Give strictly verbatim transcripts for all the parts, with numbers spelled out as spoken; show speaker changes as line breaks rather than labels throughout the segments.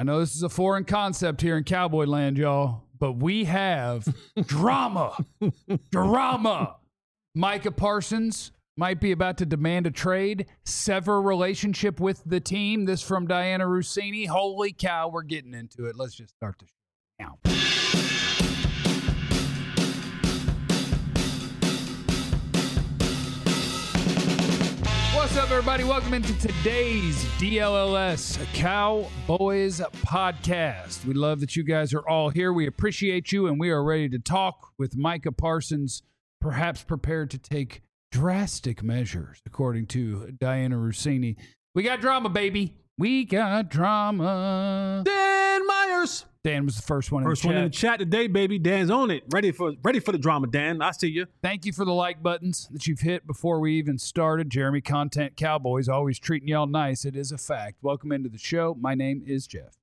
I know this is a foreign concept here in Cowboy Land, y'all, but we have drama. Drama. Micah Parsons might be about to demand a trade, sever relationship with the team. This from Diana Russini. Holy cow, we're getting into it. Let's just start the show now. What's up, everybody? Welcome into today's D L L S Cowboys podcast. We love that you guys are all here. We appreciate you, and we are ready to talk with Micah Parsons, perhaps prepared to take drastic measures, according to Diana Russini. We got drama, baby. We got drama.
Dan Myers.
Dan was the first one in
First
the chat.
one in the chat today, baby. Dan's on it. Ready for ready for the drama, Dan. I see you.
Thank you for the like buttons that you've hit before we even started. Jeremy Content Cowboys, always treating y'all nice. It is a fact. Welcome into the show. My name is Jeff.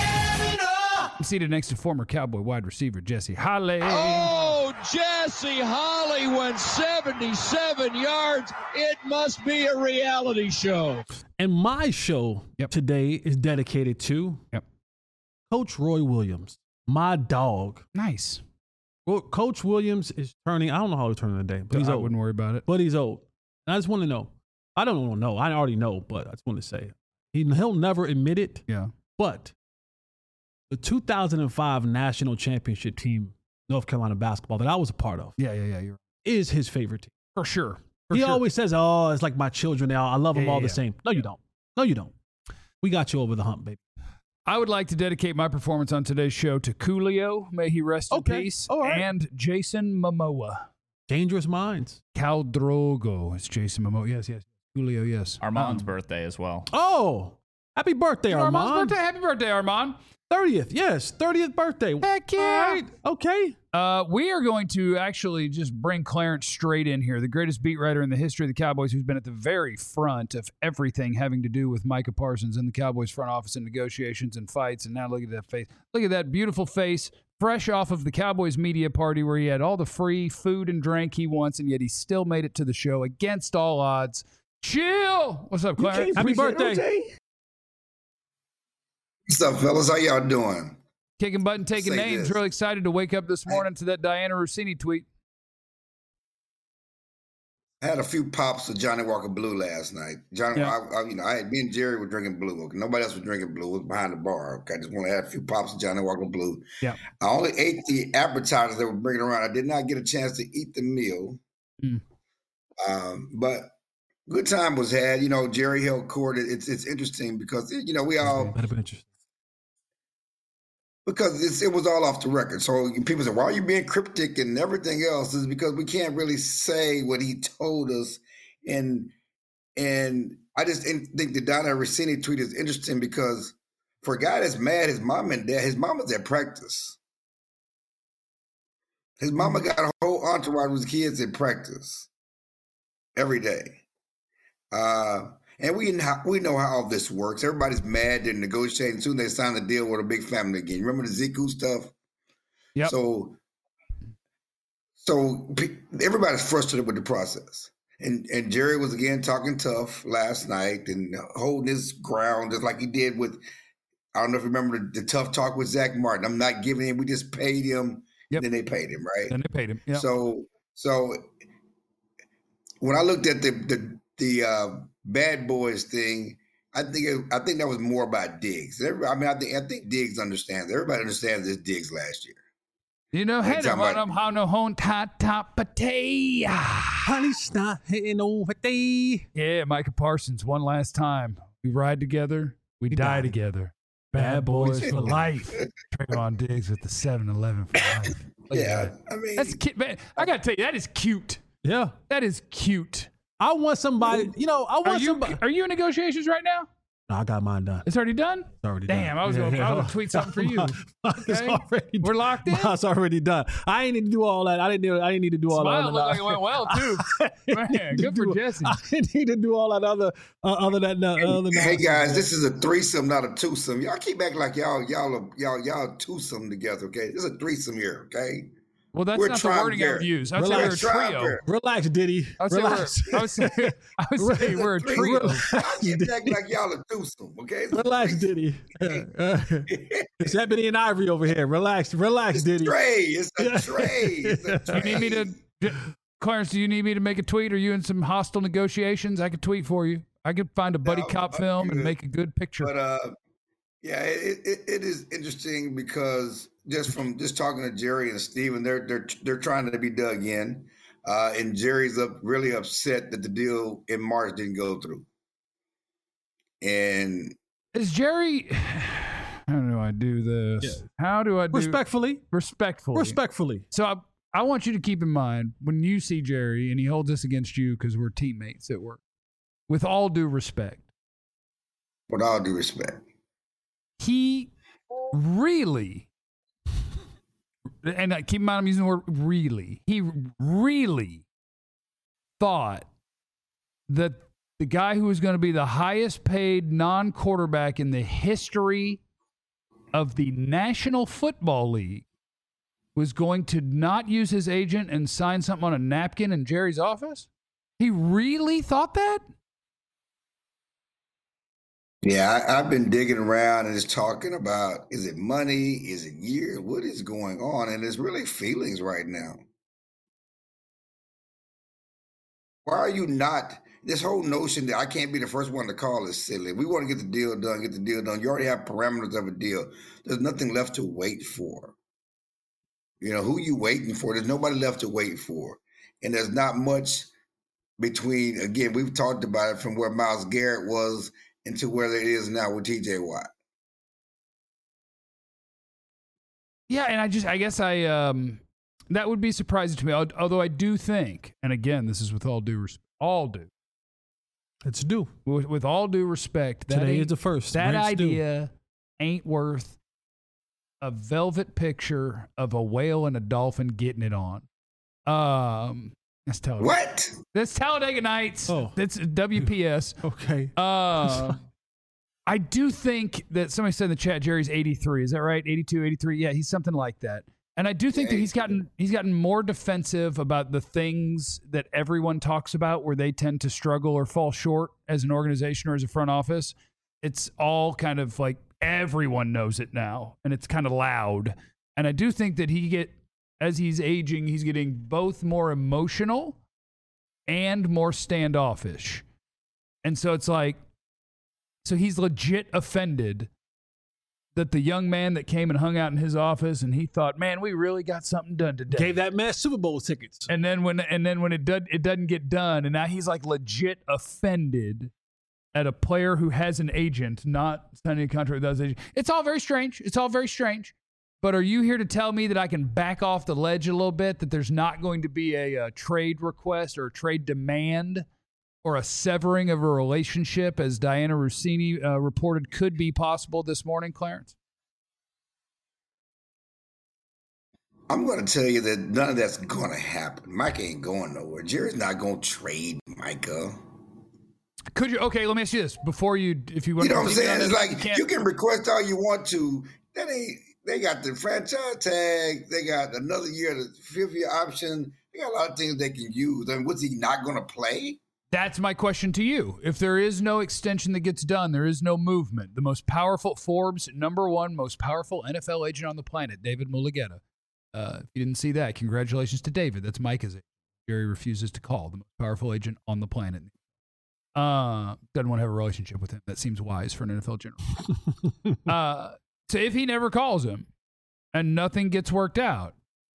I'm seated next to former Cowboy wide receiver Jesse Holley.
Oh, Jesse Holley went seventy-seven yards. It must be a reality show.
And my show
Yep.
today is dedicated to
Yep.
Coach Roy Williams, my dog.
Nice.
Well, Coach Williams is turning, I don't know how he's turning today, but he's
I
old.
wouldn't worry about it.
But he's old. And I just want to know. I don't want to know. I already know, but I just want to say it. He, he'll never admit it,
Yeah.
but the two thousand five national championship team, North Carolina basketball, that I was a part of,
Yeah, yeah, yeah. You're
is his favorite team.
for sure. For
he
sure.
always says, oh, it's like my children now. I love them
Yeah,
all
yeah,
the
yeah.
same. No, you don't. No, you don't. We got you over the hump, baby.
I would like to dedicate my performance on today's show to Coolio, may he rest
Okay.
in peace,
All right.
and Jason Momoa.
Dangerous minds.
Cal Drogo. It's Jason Momoa. Yes, yes. Coolio, yes.
Armand's
Um,
birthday as well.
Oh, happy birthday,
Armand's
Armand.
birthday. Happy birthday, Armand.
thirtieth, yes. thirtieth birthday.
Heck yeah.
All right. Okay.
Uh, we are going to actually just bring Clarence straight in here, the greatest beat writer in the history of the Cowboys, who's been at the very front of everything having to do with Micah Parsons in the Cowboys front office and negotiations and fights. And now look at that face. Look at that beautiful face, fresh off of the Cowboys media party where he had all the free food and drink he wants, and yet he still made it to the show against all odds. Chill. What's up, Clarence?
Happy birthday.
What's up, fellas? How y'all doing?
Kicking button, taking
Say
names.
this.
Really excited to wake up this morning to that Diana Russini tweet.
I had a few pops of Johnny Walker Blue last night. Johnny,
Yeah.
I, I, you know, I had me and Jerry were drinking blue. Okay, nobody else was drinking blue. It was behind the bar. Okay, I just want to add a few pops of Johnny Walker Blue.
Yeah.
I only ate the appetizers they were bringing around. I did not get a chance to eat the meal.
Mm.
Um, but good time was had. You know, Jerry held court. It's it's interesting because you know we all.
That'd be interesting.
Because it's, it was all off the record. So people say, why are you being cryptic and everything else? Is because we can't really say what he told us. And and I just in- think the Donna Rossini tweet is interesting because for a guy that's mad, his mom and dad, his mama's at practice. His mama got a whole entourage with kids in practice every day. Uh, and we know, we know how all this works. Everybody's mad. They're negotiating. Soon they sign the deal with a big family again. Remember the Ziku stuff?
Yep.
So, so pe- everybody's frustrated with the process. And and Jerry was again talking tough last night and holding his ground just like he did with, I don't know if you remember the, the tough talk with Zach Martin. I'm not giving him. We just paid him.
Yep.
And then they paid him, right?
And they paid him. Yeah.
So so when I looked at the the the uh, Bad Boys thing, I think it, I think that was more about Diggs. Everybody, I mean, I think I think Diggs understands. Everybody understands this Diggs last year.
You know,
Hey,
hey,
talking
on
about-
them, how no home top top potato.
Honey's not hitting over day.
Yeah, Micah Parsons, one last time. We ride together, we,
We
die
die
together. Bad boys for life. Trayvon Diggs with the seven eleven for life. Look at
Yeah,
that.
I mean,
That's cute, man. I gotta tell you, that is cute.
Yeah.
That is cute.
I want somebody, you know, I
Are
want
you
somebody.
are you in negotiations right now?
No, I got mine done.
It's already done.
It's already
Damn,
done.
I was gonna- I was gonna tweet something for you.
It's
Okay.
already
We're locked in?
Mine's already done. I ain't need to do all that. I didn't. Do, I didn't need to do all
Smile
that.
looked like it went well too. Man, good for Jesse.
I didn't need to do all that other, uh, other than uh, other.
hey
nonsense.
guys, this is a threesome, not a twosome. Y'all keep acting like y'all y'all are, y'all y'all twosome together. Okay, this is a threesome here. Okay,
Well, that's
We're
not the wording I would use. I'd say we're a trio.
Relax, Diddy.
I would
Relax.
say we're, I would say, I would say we're a trio.
Relax, Diddy. Like y'all are twosome, okay?
Relax, Diddy. Uh, it's Ebony and Ivory over here. Relax, relax,
it's
Diddy.
A tray. It's a tray. It's a tray.
Do you need me to, Clarence? Do you need me to make a tweet? Are you in some hostile negotiations? I could tweet for you. I could find a buddy
no,
cop
I'm
film
good.
and make a good picture.
But uh, yeah, it, it it is interesting because just from just talking to Jerry and Steven, they're they're they're trying to be dug in, uh, and Jerry's up really upset that the deal in March didn't go through. And
is Jerry? How do I do this? Yeah. How do I do
respectfully?
Respectfully.
Respectfully.
So I, I want you to keep in mind when you see Jerry and he holds this against you because we're teammates at work. With all due respect.
With all due respect.
He really, and keep in mind I'm using the word really, he really thought that the guy who was going to be the highest paid non-quarterback in the history of the National Football League was going to not use his agent and sign something on a napkin in Jerry's office? He really thought that?
Yeah, I, I've been digging around and just talking about, is it money? Is it years? What is going on? And it's really feelings right now. Why are you not, this whole notion that I can't be the first one to call is silly. We want to get the deal done, get the deal done. You already have parameters of a deal. There's nothing left to wait for. You know, who you waiting for? There's nobody left to wait for. And there's not much between, again, we've talked about it from where Myles Garrett was into where it is now with T J Watt.
Yeah, and I just, I guess I, um, that would be surprising to me. Although I do think, and again, this is with all due respect, all due.
It's due.
With, with all due respect. That
Today is the first.
That
Rent's
idea
due.
ain't worth a velvet picture of a whale and a dolphin getting it on. Um, That's Talladega.
What?
That's Talladega Nights.
Oh.
That's W P S.
Okay.
Uh, I do think that somebody said in the chat, Jerry's eighty-three. Is that right? eighty-two, eighty-three? Yeah, he's something like that. And I do think that he's gotten he's gotten more defensive about the things that everyone talks about where they tend to struggle or fall short as an organization or as a front office. It's all kind of like everyone knows it now, and it's kind of loud. And I do think that he get as he's aging, he's getting both more emotional and more standoffish. And so it's like, so he's legit offended that the young man that came and hung out in his office and he thought, man, we really got something done today.
Gave that man Super Bowl tickets.
And then when and then when it does it doesn't get done, and now he's like legit offended at a player who has an agent, not signing a contract with those agents. It's all very strange. It's all very strange. But are you here to tell me that I can back off the ledge a little bit, that there's not going to be a, a trade request or a trade demand or a severing of a relationship, as Diana Rossini uh, reported could be possible this morning, Clarence?
I'm going to tell you that none of that's going to happen. Mike ain't going nowhere. Jerry's not going to trade Micah.
Could you? Okay, let me ask you this. Before you, if you want
You know
to
what I'm saying? It's like
you,
you can request all you want to. That ain't. They got the franchise tag. They got another year, the fifth year option. They got a lot of things they can use. I mean, was he not going to play?
That's my question to you. If there is no extension that gets done, there is no movement. The most powerful, Forbes number one most powerful N F L agent on the planet, David Mulugheta. Uh, if you didn't see that, congratulations to David. That's Micah's agent. Jerry refuses to call the most powerful agent on the planet. Uh, doesn't want to have a relationship with him. That seems wise for an N F L general. uh, so if he never calls him and nothing gets worked out,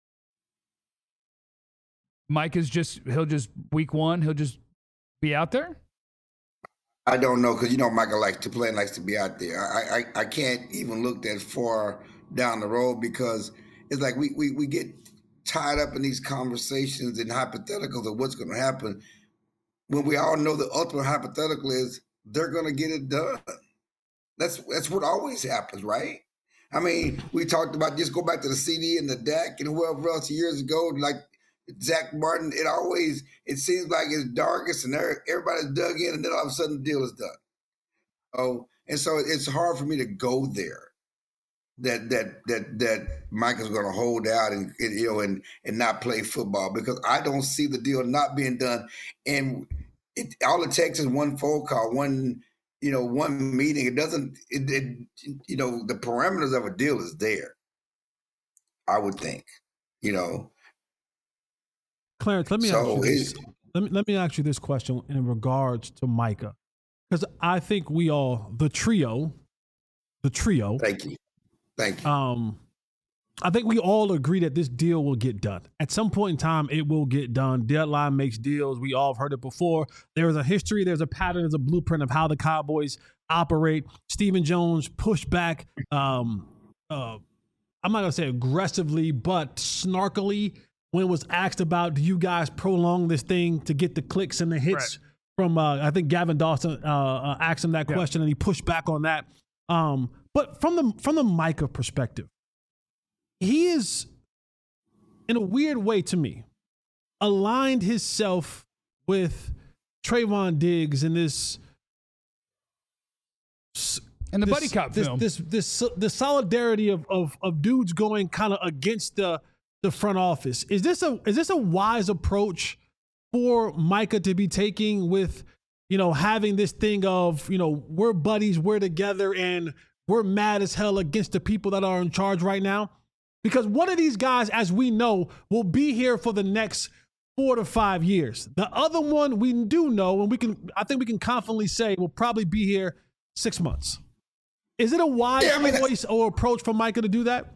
Mike is just, he'll just, week one, he'll just be out there?
I don't know, because you know Michael likes to play and likes to be out there. I, I I can't even look that far down the road, because it's like we, we, we get tied up in these conversations and hypotheticals of what's going to happen when we all know the ultimate hypothetical is they're going to get it done. That's that's what always happens, right? I mean, we talked about, just go back to the C D and the D A C and whoever else years ago, like Zach Martin. It always, it seems like it's darkest and everybody's dug in, and then all of a sudden the deal is done. Oh, and so it's hard for me to go there. that that that that Micah's going to hold out and, and you know and and not play football, because I don't see the deal not being done. And it, all it takes is one phone call, one you know one meeting. It doesn't. It, it you know the parameters of a deal is there, I would think. You know.
Clarence, let me
So
ask you this. Let me let me ask you this question in regards to Micah, because I think we all the trio, the trio.
Thank you, thank you.
Um, I think we all agree that this deal will get done at some point in time. It will get done. Deadline makes deals. We all have heard it before. There is a history. There's a pattern. There's a blueprint of how the Cowboys operate. Stephen Jones pushed back. Um, uh, I'm not gonna say aggressively, but snarkily, when was asked about, do you guys prolong this thing to get the clicks and the hits
right.
from, uh, I think Gavin Dawson uh, uh, asked him that
yeah.
question, and he pushed back on that. Um, but from the from the Micah perspective, he is, in a weird way to me, aligned himself with Trayvon Diggs in this
and the
this,
buddy cop
this,
film.
This this this the solidarity of of of dudes going kind of against the. the front office. Is this a is this a wise approach for Micah to be taking with, you know, having this thing of, you know, we're buddies, we're together, and we're mad as hell against the people that are in charge right now? Because one of these guys, as we know, will be here for the next four to five years. The other one we do know, and we can I think we can confidently say will probably be here six months. Is it a wise
yeah, I mean,
choice or approach for Micah to do that?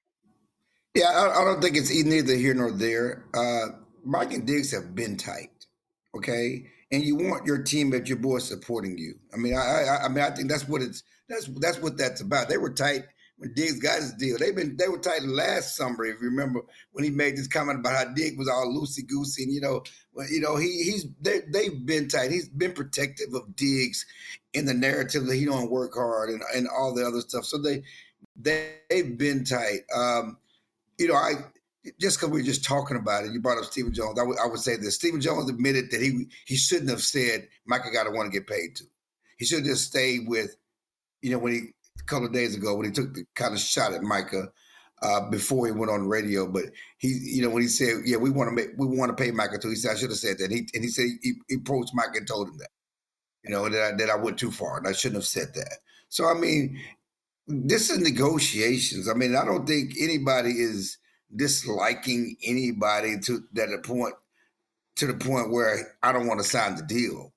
Yeah, I, I don't think it's neither here nor there. Uh, Mike and Diggs have been tight, okay, and you want your team at your boys supporting you. I mean, I, I, I mean, I think that's what it's that's that's what that's about. They were tight when Diggs got his deal. They've been they were tight last summer, if you remember, when he made this comment about how Diggs was all loosey goosey, and you know, well, you know, he he's they they've been tight. He's been protective of Diggs in the narrative that he don't work hard and and all the other stuff. So they they they've been tight. Um, You know, I just because we were just talking about it, you brought up Stephen Jones. I, w- I would say this: Stephen Jones admitted that he he shouldn't have said Micah got to want to get paid too. He should have just stayed with, you know, when he a couple of days ago when he took the kind of shot at Micah uh, before he went on the radio. But he, you know, when he said, "Yeah, we want to make we want to pay Micah too," he said, "I should have said that." He and he said he, he approached Micah and told him that, you know, that I, that I went too far and I shouldn't have said that. So I mean. This is negotiations. I mean, I don't think anybody is disliking anybody to that a point to the point where I don't want to sign the deal,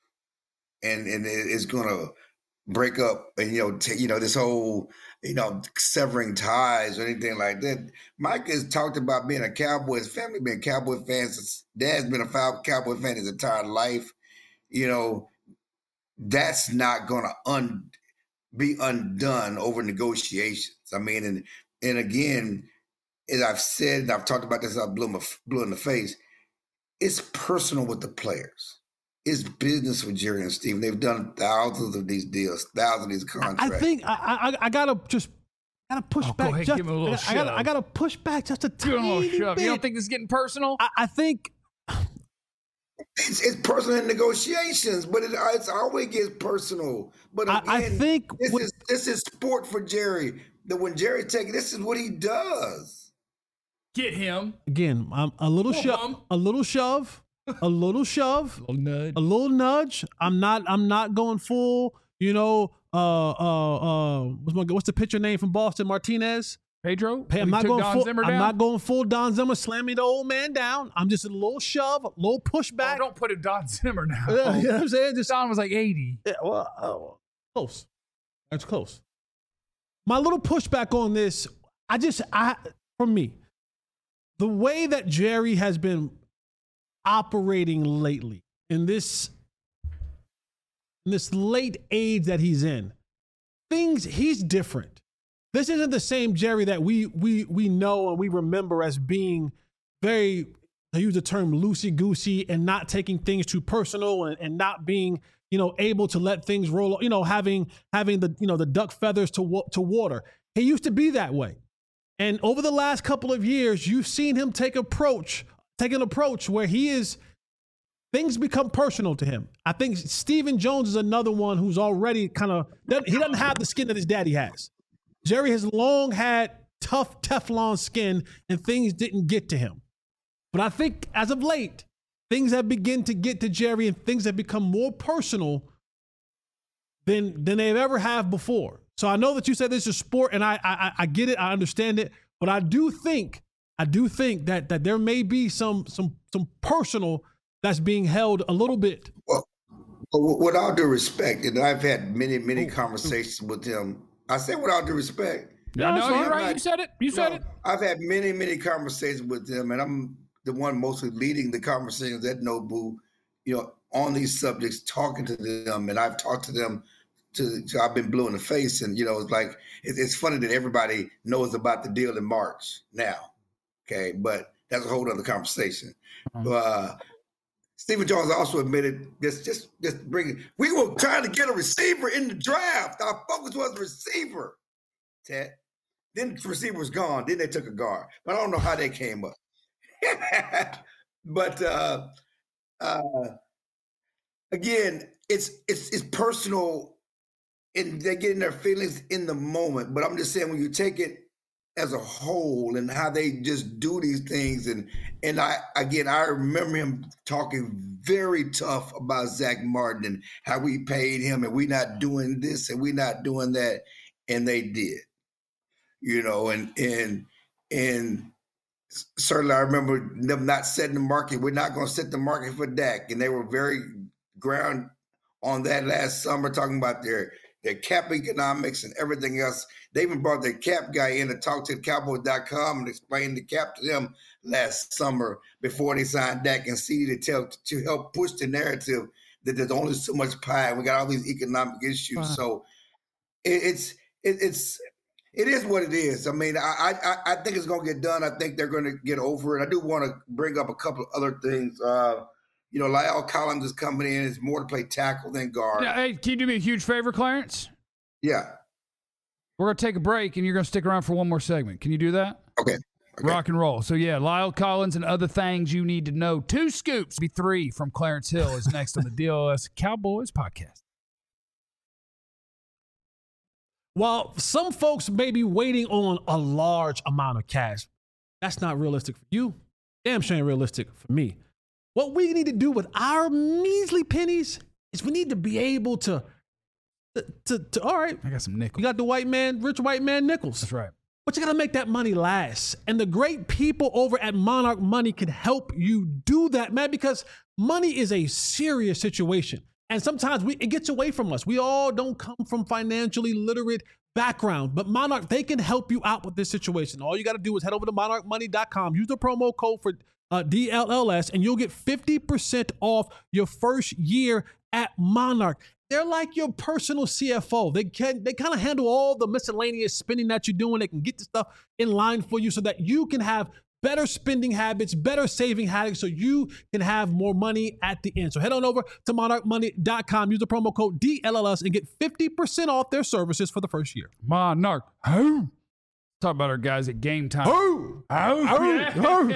and and it's going to break up. And you know, t- you know this whole you know severing ties or anything like that. Mike has talked about being a Cowboys family, being Cowboy fans. Dad's been a Cowboy fan his entire life. You know, that's not going to un. be undone over negotiations. I mean, and and again, as I've said, and I've talked about this, I blew my blew in the face. It's personal with the players. It's business with Jerry and Steve. They've done thousands of these deals, thousands of these contracts.
I think I I, I gotta just gotta push
oh,
back.
Go ahead,
just,
give him a little
I, I gotta I gotta push back just a
give
tiny
him a little shove.
bit.
You don't think this is getting personal?
I, I think.
It's, it's personal in negotiations, but it, it's always gets personal. But again,
I, I think
this
with,
is this is sport for Jerry. That when Jerry takes, this is what he does.
Get him
again. I'm a little shove, a little shove, a little shove,
a little nudge.
a little nudge. I'm not. I'm not going full. You know. Uh. Uh. Uh. What's my? What's the pitcher name from Boston? Martinez.
Pedro.
Hey, I'm not going
Don
full.
Zimmer
I'm
down?
not going full Don Zimmer. Slamming the old man down. I'm just a little shove, a little pushback.
Oh, don't put a Don Zimmer now.
Yeah, you know what I'm saying? Just
Don was like eighty.
Yeah, well, oh, close. That's close. My little pushback on this, I just, I, for me, the way that Jerry has been operating lately in this, in this late age that he's in, things, he's different. This isn't the same Jerry that we we we know and we remember as being very, I use the term loosey-goosey and not taking things too personal and, and not being, you know, able to let things roll, you know, having having the, you know, the duck feathers to to water. He used to be that way. And over the last couple of years, you've seen him take approach, take an approach where he is, things become personal to him. I think Stephen Jones is another one who's already kind of, he doesn't have the skin that his daddy has. Jerry has long had tough Teflon skin and things didn't get to him. But I think as of late, things have begun to get to Jerry and things have become more personal than, than they've ever have before. So I know that you said this is sport, and I, I I get it, I understand it, but I do think I do think that that there may be some some some personal that's being held a little bit.
Well, with all due respect, and I've had many many conversations with him. I say with all due respect.
Yeah, no,
so
you're
I'm
right.
not-
You said it. You said
No,
it.
I've had many, many conversations with them, and I'm the one mostly leading the conversations at Nobu, you know, on these subjects, talking to them, and I've talked to them to, to I've been blue in the face, and you know, it's like it, it's funny that everybody knows about the deal in March now, okay, but that's a whole other conversation.
Mhm.
Uh, Stephen Jones also admitted just just just bring. We were trying to get a receiver in the draft. Our focus was receiver. Ted. Then the receiver was gone. Then they took a guard. But I don't know how they came up. but uh, uh, again, it's it's it's personal, and they're getting their feelings in the moment. But I'm just saying, when you take it as a whole and how they just do these things, and and I again I remember him talking very tough about Zach Martin and how we paid him, and we not doing this and we not doing that, and they did. You know, and and and certainly I remember them not setting the market. We're not going to set the market for Dak, and they were very ground on that last summer, talking about their their cap economics and everything else. They even brought their cap guy in to talk to Cowboys dot com and explain the cap to them last summer before they signed Dak and C D to tell to help push the narrative that there's only so much pie. And we got all these economic issues, wow. so it, it's it, it's. It is what it is. I mean, I I, I think it's going to get done. I think they're going to get over it. I do want to bring up a couple of other things. Uh, you know, La'el Collins is coming in. It's more to play tackle than guard.
Yeah, hey, can you do me a huge favor, Clarence?
Yeah.
We're going to take a break, and you're going to stick around for one more segment. Can you do that?
Okay. Okay.
Rock and roll. So, yeah, La'el Collins and other things you need to know. Two scoops, be three from Clarence Hill is next on the D L S Cowboys podcast.
While some folks may be waiting on a large amount of cash, that's not realistic for you. Damn sure ain't realistic for me. What we need to do with our measly pennies is we need to be able to, to, to, to all right.
I got some nickels.
You got the white man, rich white man nickels.
That's right.
But you got to make that money last. And the great people over at Monarch Money can help you do that, man, because money is a serious situation. And sometimes we, it gets away from us. We all don't come from financially literate background, but Monarch, they can help you out with this situation. All you got to do is head over to monarch money dot com, use the promo code for uh, D L L S, and you'll get fifty percent off your first year at Monarch. They're like your personal C F O. They can, they kind of handle all the miscellaneous spending that you're doing. They can get the stuff in line for you so that you can have better spending habits, better saving habits, so you can have more money at the end. So head on over to monarch money dot com, use the promo code D L L S, and get fifty percent off their services for the first year.
Monarch. Who? Talk about our guys at Game Time.
Oh,
oh,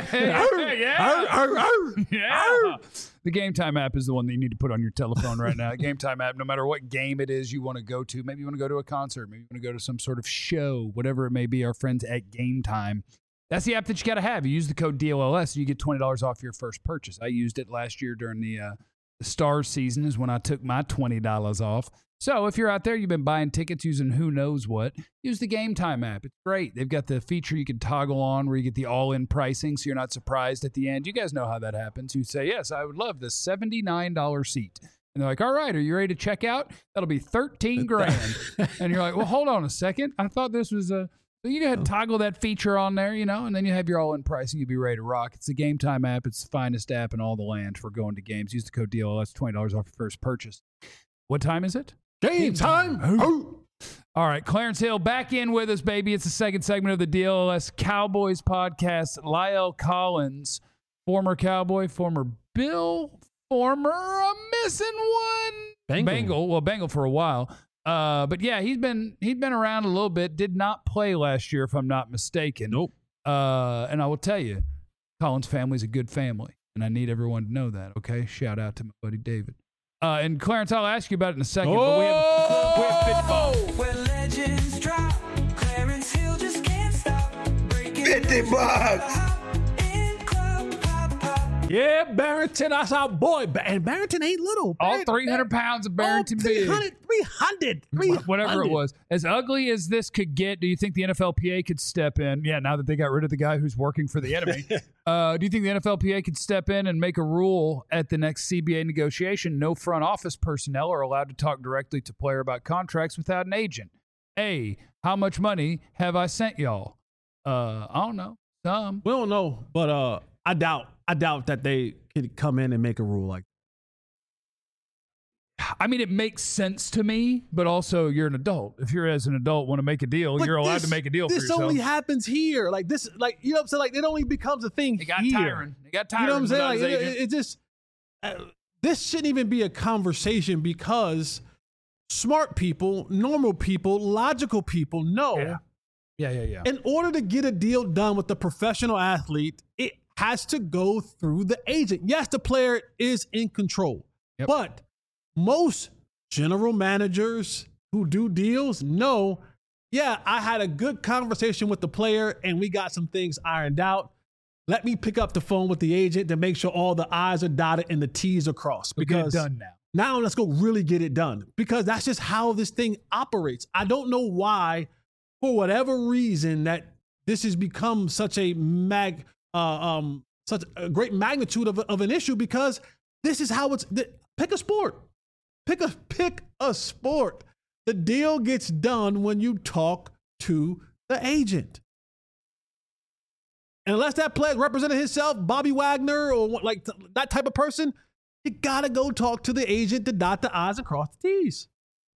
yeah. Yeah. The Game Time app is the one that you need to put on your telephone right now. The Game Time app, no matter what game it is you want to go to, maybe you want to go to a concert, maybe you want to go to some sort of show, whatever it may be, our friends at Game Time. That's the app that you got to have. You use the code D L L S, and you get twenty dollars off your first purchase. I used it last year during the, uh, the Stars season is when I took my twenty dollars off. So if you're out there, you've been buying tickets using who knows what, use the Game Time app. It's great. They've got the feature you can toggle on where you get the all-in pricing so you're not surprised at the end. You guys know how that happens. You say, yes, I would love the seventy-nine dollars seat. And they're like, all right, are you ready to check out? That'll be thirteen grand. And you're like, well, hold on a second. I thought this was a... So you go ahead and toggle that feature on there, you know, and then you have your all-in pricing. You'll be ready to rock. It's the Game Time app. It's the finest app in all the land for going to games. Use the code D L L S, twenty dollars off your first purchase. What time is it?
Game time.
Oh. All right, Clarence Hill back in with us, baby. It's the second segment of the D L L S Cowboys podcast. La'el Collins, former Cowboy, former Bill, former uh, missing one.
Bengal.
Bengal. Well, Bengal for a while. Uh, but yeah, he's been he's been around a little bit. Did not play last year, if I'm not mistaken.
Nope.
Uh, and I will tell you, Collins' family's a good family, and I need everyone to know that. Okay, shout out to my buddy David. Uh, and Clarence, I'll ask you about it in a second.
Oh!
But we have, we have
Where legends drop,
fifty bucks.
Yeah, Barrington, that's our boy. And Barrington ain't little.
All three hundred pounds of Barrington
three hundred, three hundred, three hundred.
Whatever it was. As ugly as this could get, do you think the N F L P A could step in? Yeah, now that they got rid of the guy who's working for the enemy. uh, do you think the N F L P A could step in and make a rule at the next C B A negotiation? No front office personnel are allowed to talk directly to player about contracts without an agent. A, how much money have I sent y'all? Uh, I don't know. Some.
We don't know, but uh, I doubt. I doubt that they could come in and make a rule like
that. I mean, it makes sense to me, but also you're an adult. If you're as an adult want to make a deal,
but
you're allowed
this,
to make a deal for yourself.
This only happens here. Like this, like, you know what I'm saying? Like, it only becomes a thing
it got
here.
tiring. It got tiring.
You know what I'm saying? Like, it, it, it just, uh, this shouldn't even be a conversation because smart people, normal people, logical people know.
Yeah. Yeah, yeah, yeah.
In order to get a deal done with the professional athlete, it has to go through the agent. Yes, the player is in control, yep. But most general managers who do deals know, yeah, I had a good conversation with the player and we got some things ironed out. Let me pick up the phone with the agent to make sure all the I's are dotted and the T's are crossed.
We'll
because
get it done now.
Now let's go really get it done because that's just how this thing operates. I don't know why, for whatever reason, that this has become such a mag, uh, um, such a great magnitude of, of an issue because this is how it's. The, pick a sport, pick a pick a sport. The deal gets done when you talk to the agent, and unless that player represented himself, Bobby Wagner or what, like that type of person, you gotta go talk to the agent to dot the I's and cross the T's.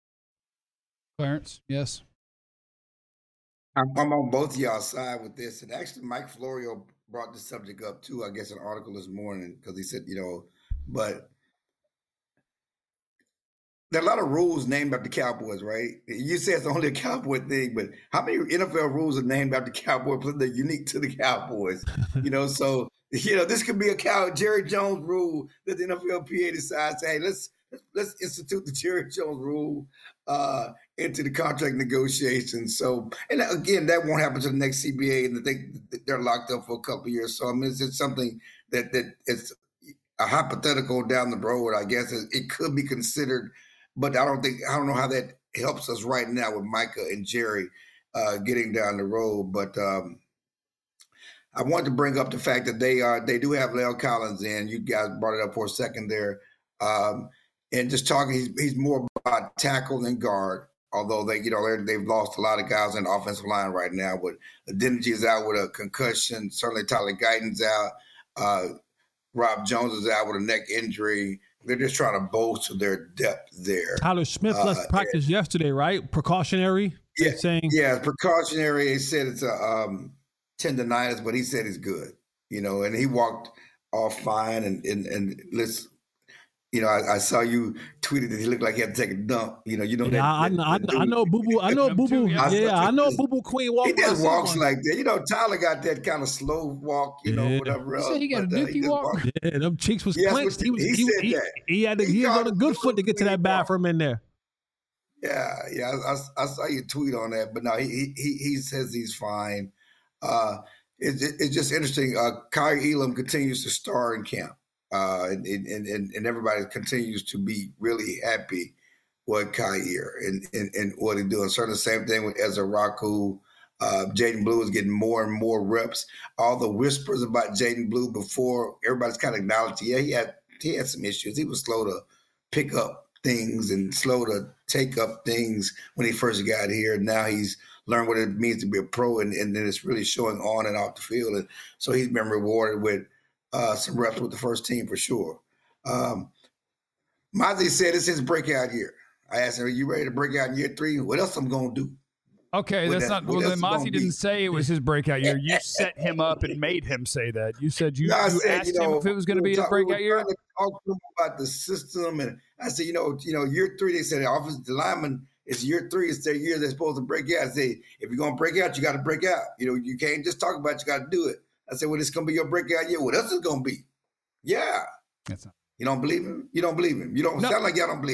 Clarence, yes.
I'm, I'm on both of y'all's side with this. And actually, Mike Florio brought the subject up too, I guess, an article this morning, because he said, you know, but there are a lot of rules named after Cowboys, right? You say it's only a Cowboy thing, but how many N F L rules are named after Cowboys? They're unique to the Cowboys, you know? So, you know, this could be a cow Jerry Jones rule that the N F L P A decides, hey, let's let's institute the Jerry Jones rule uh, into the contract negotiations. So, and again, that won't happen to the next C B A, and they they're locked up for a couple of years. So, I mean, it's just something that that it's a hypothetical down the road. I guess it, it could be considered, but I don't think I don't know how that helps us right now with Micah and Jerry uh, getting down the road. But um, I wanted to bring up the fact that they are they do have La'el Collins in. You guys brought it up for a second there. Um, And just talking, he's, he's more about tackle than guard, although they, you know, they've lost a lot of guys in the offensive line right now. But Adeniji is out with a concussion. Certainly Tyler Guyton's out. Uh, Rob Jones is out with a neck injury. They're just trying to bolster their depth there.
Tyler Smith uh, left practice and, yesterday, right? Precautionary?
Yeah,
saying.
yeah, precautionary. He said it's a um, tendonitis, but he said he's good, you know, and he walked off fine. And, and, and let's, You know, I, I saw you tweeted that he looked like he had to take a dump. You know, you know
yeah,
that.
I,
that,
I,
that
I, I know Boo Boo. I know Boo Boo. Yeah, yeah I know Boo Boo Queen walk.
He just walks like that. You know, Tyler got that kind of slow walk. You know,
yeah.
whatever else.
You said he got
but,
a
uh,
dookie walk.
Walked.
Yeah, them cheeks was
yes,
clenched. He was.
He,
He,
said
he,
that.
he had. To, he, he was on a good foot to get to that bathroom in there.
Yeah, yeah. I, I, I saw your tweet on that, but no, he he he says he's fine. Uh, it, it, it's just interesting. Uh, Kaiir Elam continues to star in camp. Uh, and, and, and, and everybody continues to be really happy with Kaiir and, and, and what he's doing. Certainly the same thing with Ezra Raku. Uh, Jaden Blue is getting more and more reps. All the whispers about Jaden Blue before, everybody's kind of acknowledged, yeah, he had, he had some issues. He was slow to pick up things and slow to take up things when he first got here. Now he's learned what it means to be a pro, and, and then it's really showing on and off the field. And so he's been rewarded with Uh, some reps with the first team for sure. Um, Mazi said it's his breakout year. I asked him, are you ready to break out in year three? What else I'm going to do?
Okay,
what
that's
that,
not. Well, then Mazi didn't say it was his breakout year. You set him up and made him say that. You said you,
no,
you
said,
asked
you know,
him if it was going to be his breakout
we
year.
To talk to him about the system, and I said, you know, you know, year three. They said the offensive lineman is year three. It's their year. They're supposed to break out. I say, if you're going to break out, you got to break out. You know, you can't just talk about it. You got to do it. I said, well, it's going to be your breakout year. What else is it going to be? Yeah.
That's not.
You don't believe him? You don't believe him. You don't
No.
sound like y'all don't believe him.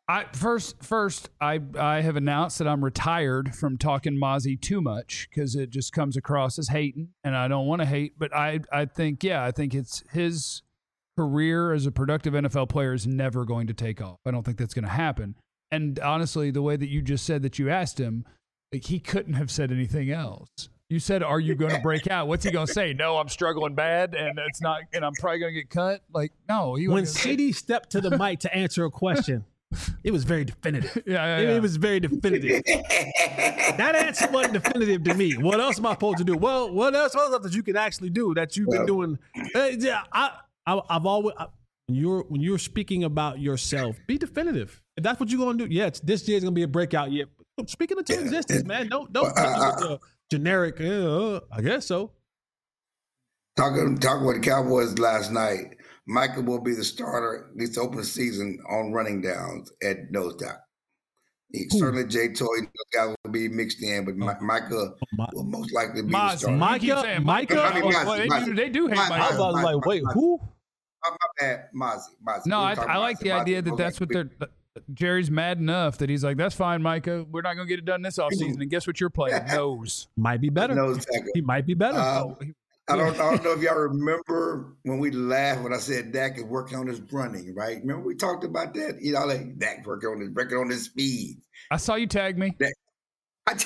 I first, first, I I have announced that I'm retired from talking Mozzie too much because it just comes across as hating, and I don't want to hate. But I I think yeah, I think it's his career as a productive N F L player is never going to take off. I don't think that's going to happen. And honestly, the way that you just said that you asked him, like, he couldn't have said anything else. You said, "Are you going to break out?" What's he going to say? No, I'm struggling bad, and it's not, and I'm probably going to get cut. Like, no. He
when C D stepped to the mic to answer a question. It was very definitive.
Yeah, yeah,
it,
yeah.
it was very definitive. That answer wasn't definitive to me. What else am I supposed to do? Well, what else? What else that you can actually do that you've been doing? Uh, yeah, I, I, I've always. I, when you're when you're speaking about yourself, be definitive. If that's what you're gonna do, yeah, it's, this year's gonna be a breakout year. Speaking into existence, man. Don't don't
Well,
take it with a generic. Uh, I guess so.
Talking talking with the Cowboys last night. Micah will be the starter, at least to open the season, on running downs at nose tackle. He, certainly, Jay Toy guys will be mixed in, but Mi- Micah
My,
will most likely be
Mozzie.
the starter.
Micah, Micah.
I mean,
Oh,
Mozzie,
well, they,
Mozzie.
do, they do hate
Mozzie,
Micah.
I was
Mozzie,
like, wait,
Mozzie.
who?
Oh, my bad, Mozzie. Mozzie.
No,
We
I,
were talking
I like
Mozzie.
the idea
Mozzie
that
was
that's
like
what they're. Jerry's mad enough that he's like, that's fine, Micah. We're not going to get it done this offseason. And guess what you're playing? Nose.
Might be better.
nose tackle.
He might be better.
Uh,
Oh, he-
I don't, I don't know if y'all remember when we laughed when I said Dak is working on his running, right? Remember we talked about that? You know, like Dak working on his working on his speed.
I saw you tag me.
I,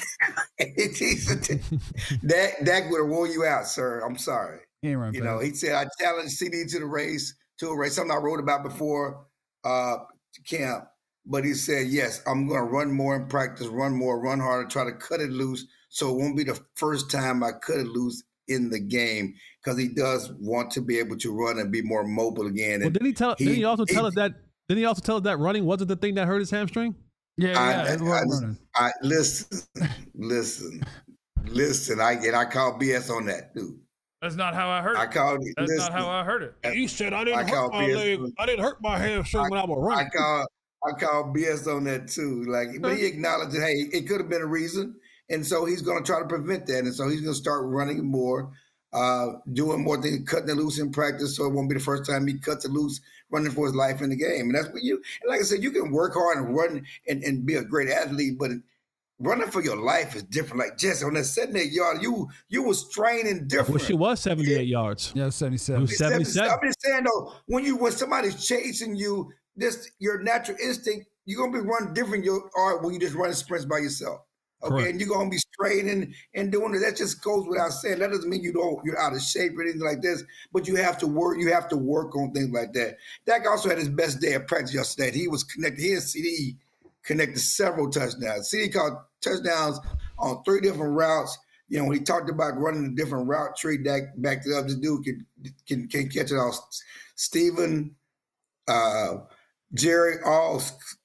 Dak, Dak would have worn you out, sir. I'm sorry.
He ain't run
You
fast.
know, he said I challenged C D to the race, to a race, something I wrote about before uh, camp. But he said, yes, I'm going to run more in practice, run more, run harder, try to cut it loose. So it won't be the first time I cut it loose in the game, because he does want to be able to run and be more mobile again.
Well,
And
did he tell?
he-
did he also tell
he-
us that? Did he also tell us that running wasn't the thing that hurt his hamstring?
yeah, yeah.
I,
it
I,
wasn't running.
I, I listen, listen, listen. I and I call B S on that, dude.
That's not how I heard
I
it.
called.
That's
listen,
not how I heard it.
He said I
I call B S.
I didn't hurt my hamstring when I was
I
running.
call I call B S on that too. Like, but he acknowledged that, hey, it could have been a reason, and so he's going to try to prevent that, and so he's going to start running more, uh, doing more things, cutting it loose in practice, so it won't be the first time he cuts it loose, running for his life in the game. And that's what you. And like I said, you can work hard and run and, and be a great athlete, but running for your life is different. Like Jesse on that seventy-eight yard, you you was training
I
different.
wish it was seventy-eight yards.
Yeah,
It
seventy-seven.
was seventy-seven.
I'm just saying though, when you when somebody's chasing you, this your natural instinct, you're gonna be running different you are when you just running sprints by yourself. Okay,
Correct.
and you're gonna be straight and, and doing it. That just goes without saying. That doesn't mean you don't you're out of shape or anything like this, but you have to work, you have to work on things like that. Dak also had his best day of practice yesterday. He was connected, he and C D connected several touchdowns. C D caught touchdowns on three different routes. You know, when he talked about running a different route tree, Dak backed it up. This dude can can, can catch it all. Stephen, uh, Jerry, all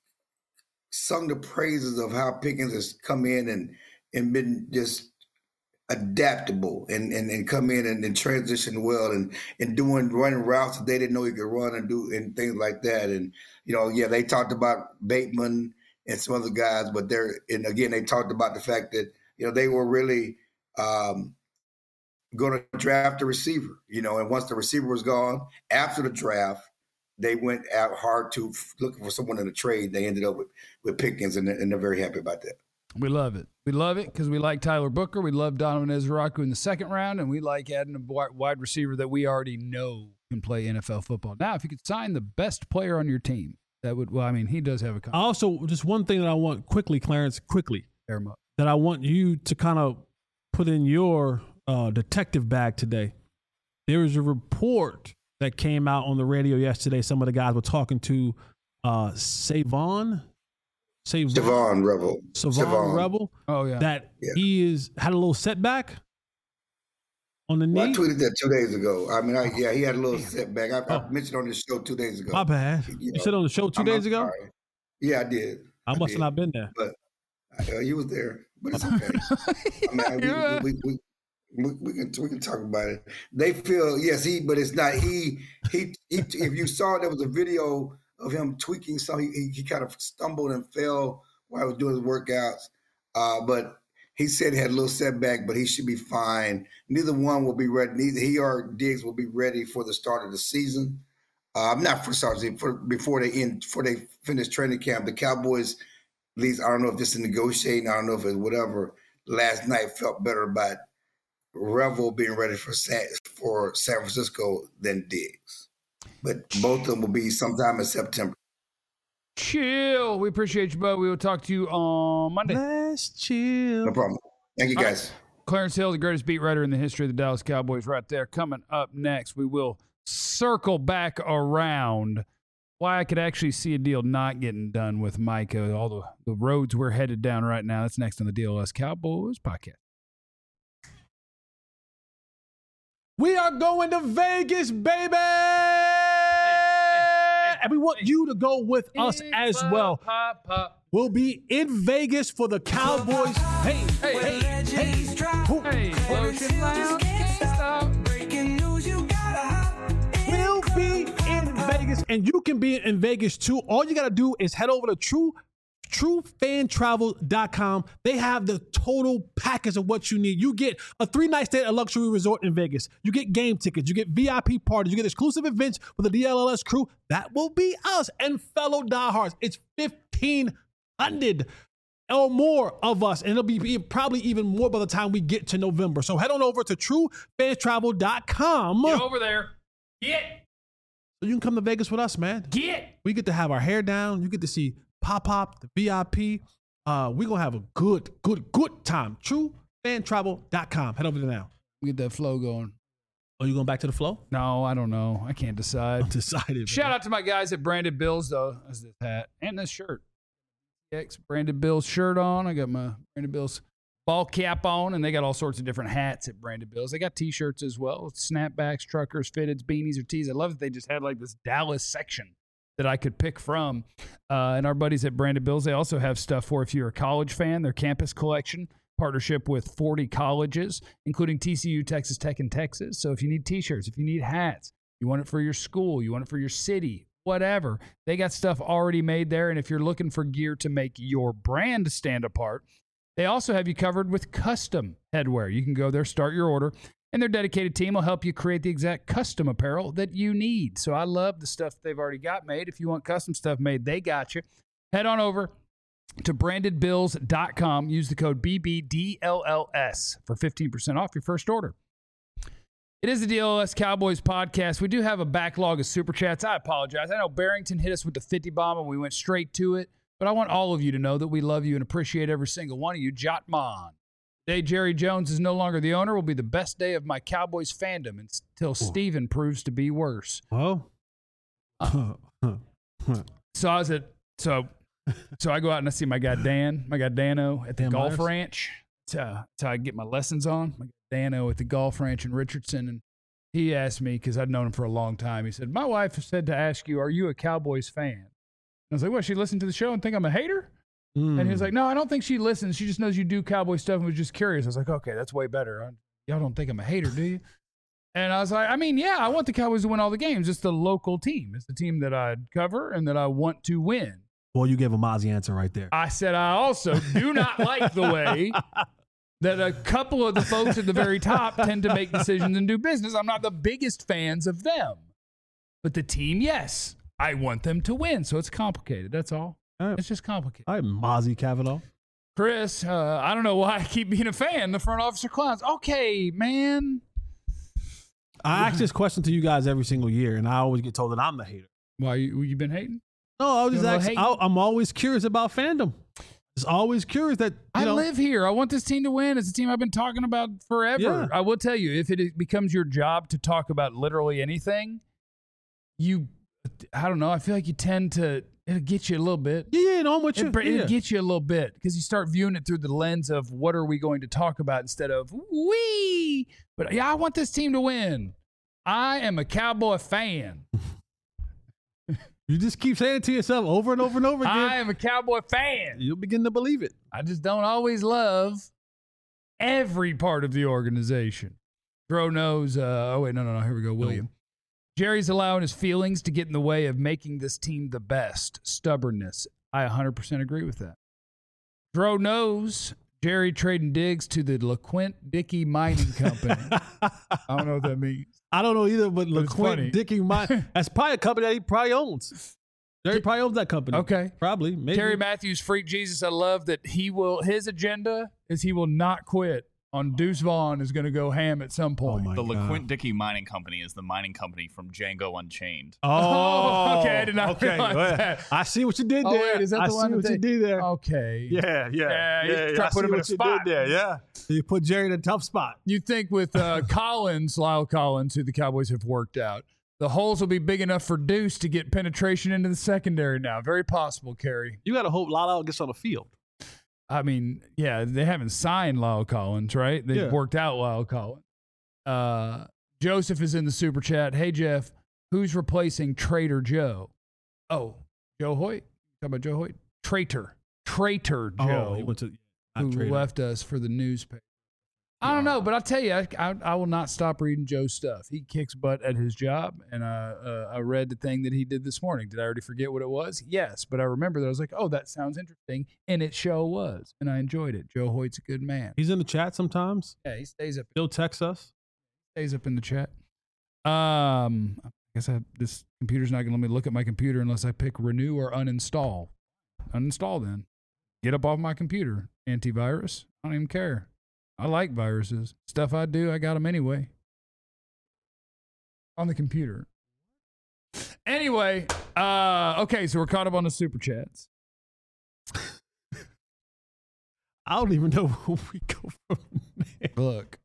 sung the praises of how Pickens has come in and and been just adaptable and and, and come in and, and transition well and and doing running routes that they didn't know he could run and do and things like that. And you know, yeah, they talked about Bateman and some other guys, but they're and again they talked about the fact that you know they were really um, going to draft a receiver. You know, and once the receiver was gone after the draft, they went out hard to looking for someone in the trade. They ended up with with Pickens, and, and they're very happy about that.
We love it. We love it because we like Tyler Booker. We love Donovan Ezraku in the second round, and we like adding a wide receiver that we already know can play N F L football. Now, if you could sign the best player on your team, that would, well, I mean, he does have a contract.
Also, just one thing that I want quickly, Clarence, quickly,
Pair him up.
that I want you to kind of put in your uh, detective bag today. There was a report that came out on the radio yesterday. Some of the guys were talking to uh, Savon, Savon,
Savon Rebel,
Savon
Savon.
Rebel,
Oh, yeah.
that
Yeah.
he is had a little setback on the knee.
Well, I tweeted that two days ago. I mean, I, yeah, he had a little setback. I, I
Oh.
mentioned on this show two days ago.
My bad.
You
You,
know,
said on the show 2
I'm-
days
I'm
ago.
sorry. Yeah, I did.
I must
did.
have not been there.
Uh, you was there, but it's okay. I mean, we,
Yeah.
we, we, we, we can we can talk about it. They feel yes, he, but it's not he. He, he if you saw, there was a video of him tweaking, so he, he, he kind of stumbled and fell while he was doing his workouts. Uh, but he said he had a little setback, but he should be fine. Neither one will be ready. Neither he or Diggs will be ready for the start of the season. Uh, I'm not for sorry for before they end before they finish training camp. The Cowboys, at least I don't know if this is negotiating. I don't know if it's whatever. Last night felt better about Revel being ready for San, for San Francisco than Diggs, but both of them will be sometime in September.
Chill. We appreciate you, bud. We will talk to you on Monday.
Let's chill.
No problem. Thank you, guys.
Right. Clarence Hill, the greatest beat writer in the history of the Dallas Cowboys, right there. Coming up next, we will circle back around why I could actually see a deal not getting done with Micah. All the, the roads we're headed down right now. That's next on the D L S Cowboys podcast.
We are going to Vegas, baby! And we want you to go with us as well.
Pop, pop.
We'll be in Vegas for the Cowboys. Hey, hey, hey, hey.
Hey, Lotion Lounge.
We'll be in Vegas, and you can be in Vegas too. All you got to do is head over to True true fan travel dot com. They have the total package of what you need. You get a three-night stay at a luxury resort in Vegas. You get game tickets. You get V I P parties. You get exclusive events with the D L L S crew. That will be us and fellow diehards. It's fifteen hundred or more of us, and it'll be probably even more by the time we get to November. So head on over to true fan travel dot com.
Get over there. Get.
So you can come to Vegas with us, man.
Get.
We get to have our hair down. You get to see Pop-Pop, the V I P. Uh, we're going to have a good, good, good time. true fan travel dot com. Head over there now.
Get that flow going.
Are you going back to the flow?
No, I don't know. I can't decide.
I'm decided.
Shout
man.
out to my guys at Branded Bills, though. That's this hat and this shirt. X Branded Bills shirt on. I got my Branded Bills ball cap on, and they got all sorts of different hats at Branded Bills. They got T-shirts as well. Snapbacks, truckers, fitteds, beanies, or tees. I love that they just had like this Dallas section that I could pick from. Uh, and our buddies at Branded Bills, they also have stuff for if you're a college fan, their campus collection, partnership with forty colleges, including T C U, Texas Tech, and Texas. So if you need T-shirts, if you need hats, you want it for your school, you want it for your city, whatever, they got stuff already made there. And if you're looking for gear to make your brand stand apart, they also have you covered with custom headwear. You can go there, start your order, and their dedicated team will help you create the exact custom apparel that you need. So I love the stuff they've already got made. If you want custom stuff made, they got you. Head on over to branded bills dot com. Use the code B B D L L S for fifteen percent off your first order. It is the D L L S Cowboys podcast. We do have a backlog of super chats. I apologize. I know Barrington hit us with the fifty bomb and we went straight to it. But I want all of you to know that we love you and appreciate every single one of you. Jotman. Day Jerry Jones is no longer the owner will be the best day of my Cowboys fandom until Ooh. Steven proves to be worse.
Oh.
Uh, so I was at so so I go out and I see my guy Dan, my guy Dano at the
Dan
golf
Myers.
ranch. That's how, that's how I get my lessons on. My guy Dano at the golf ranch in Richardson, and he asked me because I'd known him for a long time. He said, "My wife said to ask you, are you a Cowboys fan?" I was like, "What? She listened to the show and think I'm a hater?" Mm. And he was like, "No, I don't think she listens. She just knows you do Cowboy stuff and was just curious." I was like, "Okay, that's way better. I, y'all don't think I'm a hater, do you?" And I was like, "I mean, yeah, I want the Cowboys to win all the games. It's the local team. It's the team that I cover and that I want to win."
Well, you gave a Mozzie answer right there.
I said, I also do not like the way that a couple of the folks at the very top tend to make decisions and do business. I'm not the biggest fans of them. But the team, yes. I want them to win, so it's complicated. That's all. all right. It's just complicated.
All right, Mozzie Cavanaugh.
Chris, uh, I don't know why I keep being a fan. The front officer clowns. Okay, man.
I ask this question to you guys every single year, and I always get told that I'm the hater.
Why, you, you been hating?
No, I was just asking. I, I'm always curious about fandom. Just always curious that, you
I
know,
live here. I want this team to win. It's a team I've been talking about forever.
Yeah.
I will tell you, if it becomes your job to talk about literally anything, you... I don't know. I feel like you tend to, it'll get you a little bit.
Yeah, no, I'm with you.
It, it'll
yeah.
get you a little bit because you start viewing it through the lens of what are we going to talk about instead of we. But yeah, I want this team to win. I am a Cowboy fan.
You just keep saying it to yourself over and over and over again.
I am a Cowboy fan.
You'll begin to believe it.
I just don't always love every part of the organization. Dro knows. Uh, oh, wait, no, no, no. Here we go, William. Jerry's allowing his feelings to get in the way of making this team the best. Stubbornness. I one hundred percent agree with that. Dro knows Jerry trading digs to the LeQuint Dickey Mining Company. I don't know what that means.
I don't know either, but,
but
LeQuint Dickey Mining, that's probably a company that he probably owns. Jerry probably owns that company.
Okay.
Probably. Maybe.
Terry Matthews, Freak Jesus. I love that he will, his agenda is he will not quit on Deuce Vaughn is going to go ham at some point.
Oh
the
God.
LeQuint Dickey Mining Company is the mining company from Django Unchained.
Oh,
okay. I did not
okay.
realize
Well,
that.
I see what you did
Oh,
there.
wait, is that
I
the
see
one
what
that
you
they-
did there.
Okay.
Yeah, yeah.
Yeah, you
yeah,
try
I
to put
see
him in a
what you
spot.
did there, yeah. You put Jerry in a tough spot.
You think with uh, Collins, Lyle Collins, who the Cowboys have worked out, the holes will be big enough for Deuce to get penetration into the secondary now. Very possible, Kerry.
You got to hope Lala gets on the field.
I mean, yeah, they haven't signed Lyle Collins, right? They've
Yeah.
worked out Lyle Collins. Uh, Joseph is in the super chat. Hey, Jeff, who's replacing Traitor Joe? Oh, Joe Hoyt? Talk about Joe Hoyt? Traitor. Traitor Joe,
Oh, he went to
who
not Trader.
left us for the newspaper. I don't know, but I'll tell you, I, I, I will not stop reading Joe's stuff. He kicks butt at his job, and uh, uh, I read the thing that he did this morning. Did I already forget what it was? Yes, but I remember that I was like, oh, that sounds interesting, and it sure was, and I enjoyed it. Joe Hoyt's a good man.
He's in the chat sometimes.
Yeah, he stays up.
He'll text us.
Stays up in the chat. Um, I guess I, this computer's not going to let me look at my computer unless I pick renew or uninstall. Uninstall then. Get up off my computer. Antivirus. I don't even care. I like viruses. Stuff I do, I got them anyway. On the computer. Anyway, uh, okay, so we're caught up on the super chats.
I don't even know where we go from there.
Look,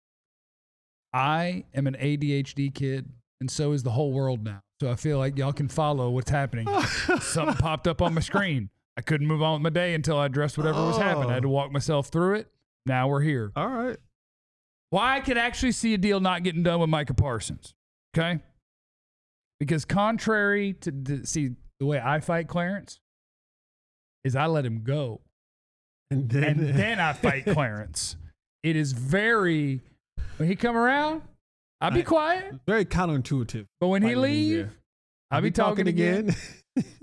I am an A D H D kid, and so is the whole world now. So I feel like y'all can follow what's happening. Something popped up on my screen. I couldn't move on with my day until I addressed whatever was happening. I had to walk myself through it. Now we're here.
All right.
Why I could actually see a deal not getting done with Micah Parsons, okay? Because contrary to the, see the way I fight Clarence is I let him go.
And then,
and then I fight Clarence. It is very, when he come around, I'll be
I-
quiet.
very counterintuitive.
But when he
fighting with me
leave,
there.
I'll be talking again.
again.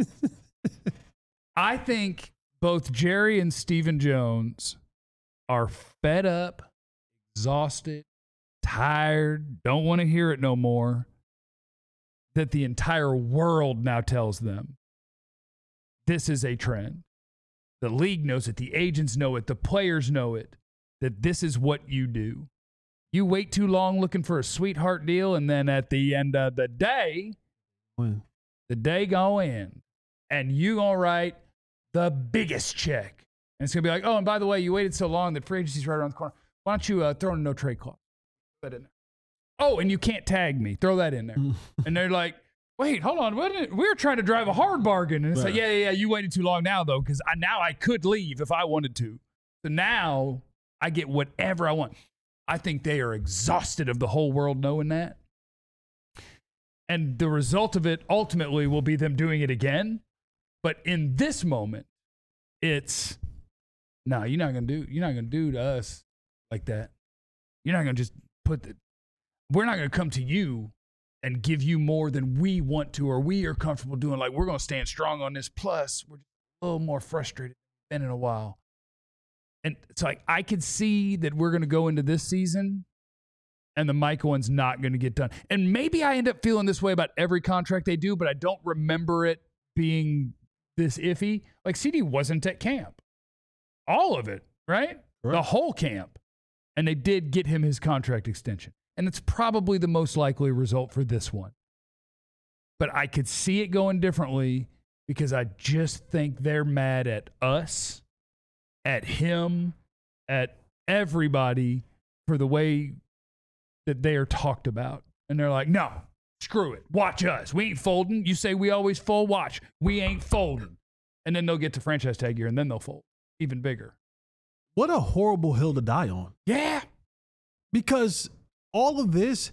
I think both Jerry and Stephen Jones are fed up, exhausted, tired, don't want to hear it no more, that the entire world now tells them this is a trend. The league knows it. The agents know it. The players know it, that this is what you do. You wait too long looking for a sweetheart deal, and then at the end of the day,
When?
the day go in, and you gonna write the biggest check. And it's gonna be like, oh, and by the way, you waited so long that free agency's right around the corner. Why don't you uh, throw in a no trade clause? Put that in there. Oh, and you can't tag me. Throw that in there. And they're like, wait, hold on. What did, we were trying to drive a hard bargain. And it's
Right.
like, yeah, yeah, yeah. You waited too long now, though, because I, now I could leave if I wanted to. So now I get whatever I want. I think they are exhausted of the whole world knowing that. And the result of it ultimately will be them doing it again. But in this moment, it's, no, you're not going to do, you're not going to do to us like that. You're not going to just put the, we're not going to come to you and give you more than we want to or we are comfortable doing. Like, we're going to stand strong on this. Plus, we're a little more frustrated than in a while. And it's like, I could see that we're going to go into this season and the Micah one's not going to get done. And maybe I end up feeling this way about every contract they do, but I don't remember it being this iffy. Like, C D wasn't at camp. All of it, right?
Right.
The whole camp. And they did get him his contract extension. And it's probably the most likely result for this one. But I could see it going differently because I just think they're mad at us, at him, at everybody for the way that they are talked about. And they're like, no, screw it. Watch us. We ain't folding. You say we always fold. Watch. We ain't folding. And then they'll get to franchise tag year and then they'll fold even bigger.
What a horrible hill to die on.
Yeah.
Because all of this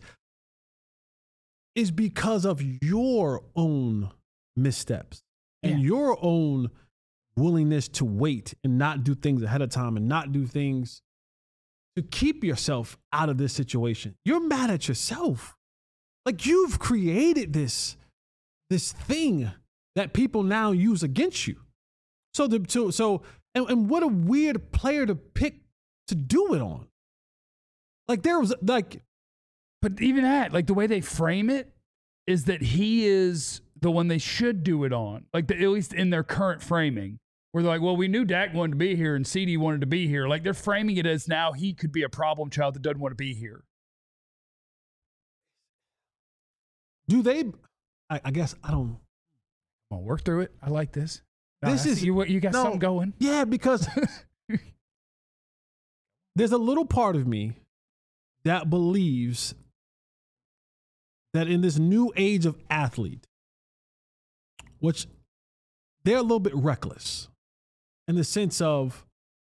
is because of your own missteps and
Yeah.
your own willingness to wait and not do things ahead of time and not do things to keep yourself out of this situation. You're mad at yourself. Like, you've created this, this thing that people now use against you. So the so, so And, and what a weird player to pick to do it on. Like there was like,
but even that, like the way they frame it is that he is the one they should do it on. Like the, at least in their current framing, where they're like, well, we knew Dak wanted to be here and C D wanted to be here. Like they're framing it as now he could be a problem child that doesn't want to be here.
Do they? I, I guess I don't.
Come on, work through it. I like this.
This
no,
is
you. You got
no,
something going.
Yeah, because there's a little part of me that believes that in this new age of athlete, which they're a little bit reckless in the sense of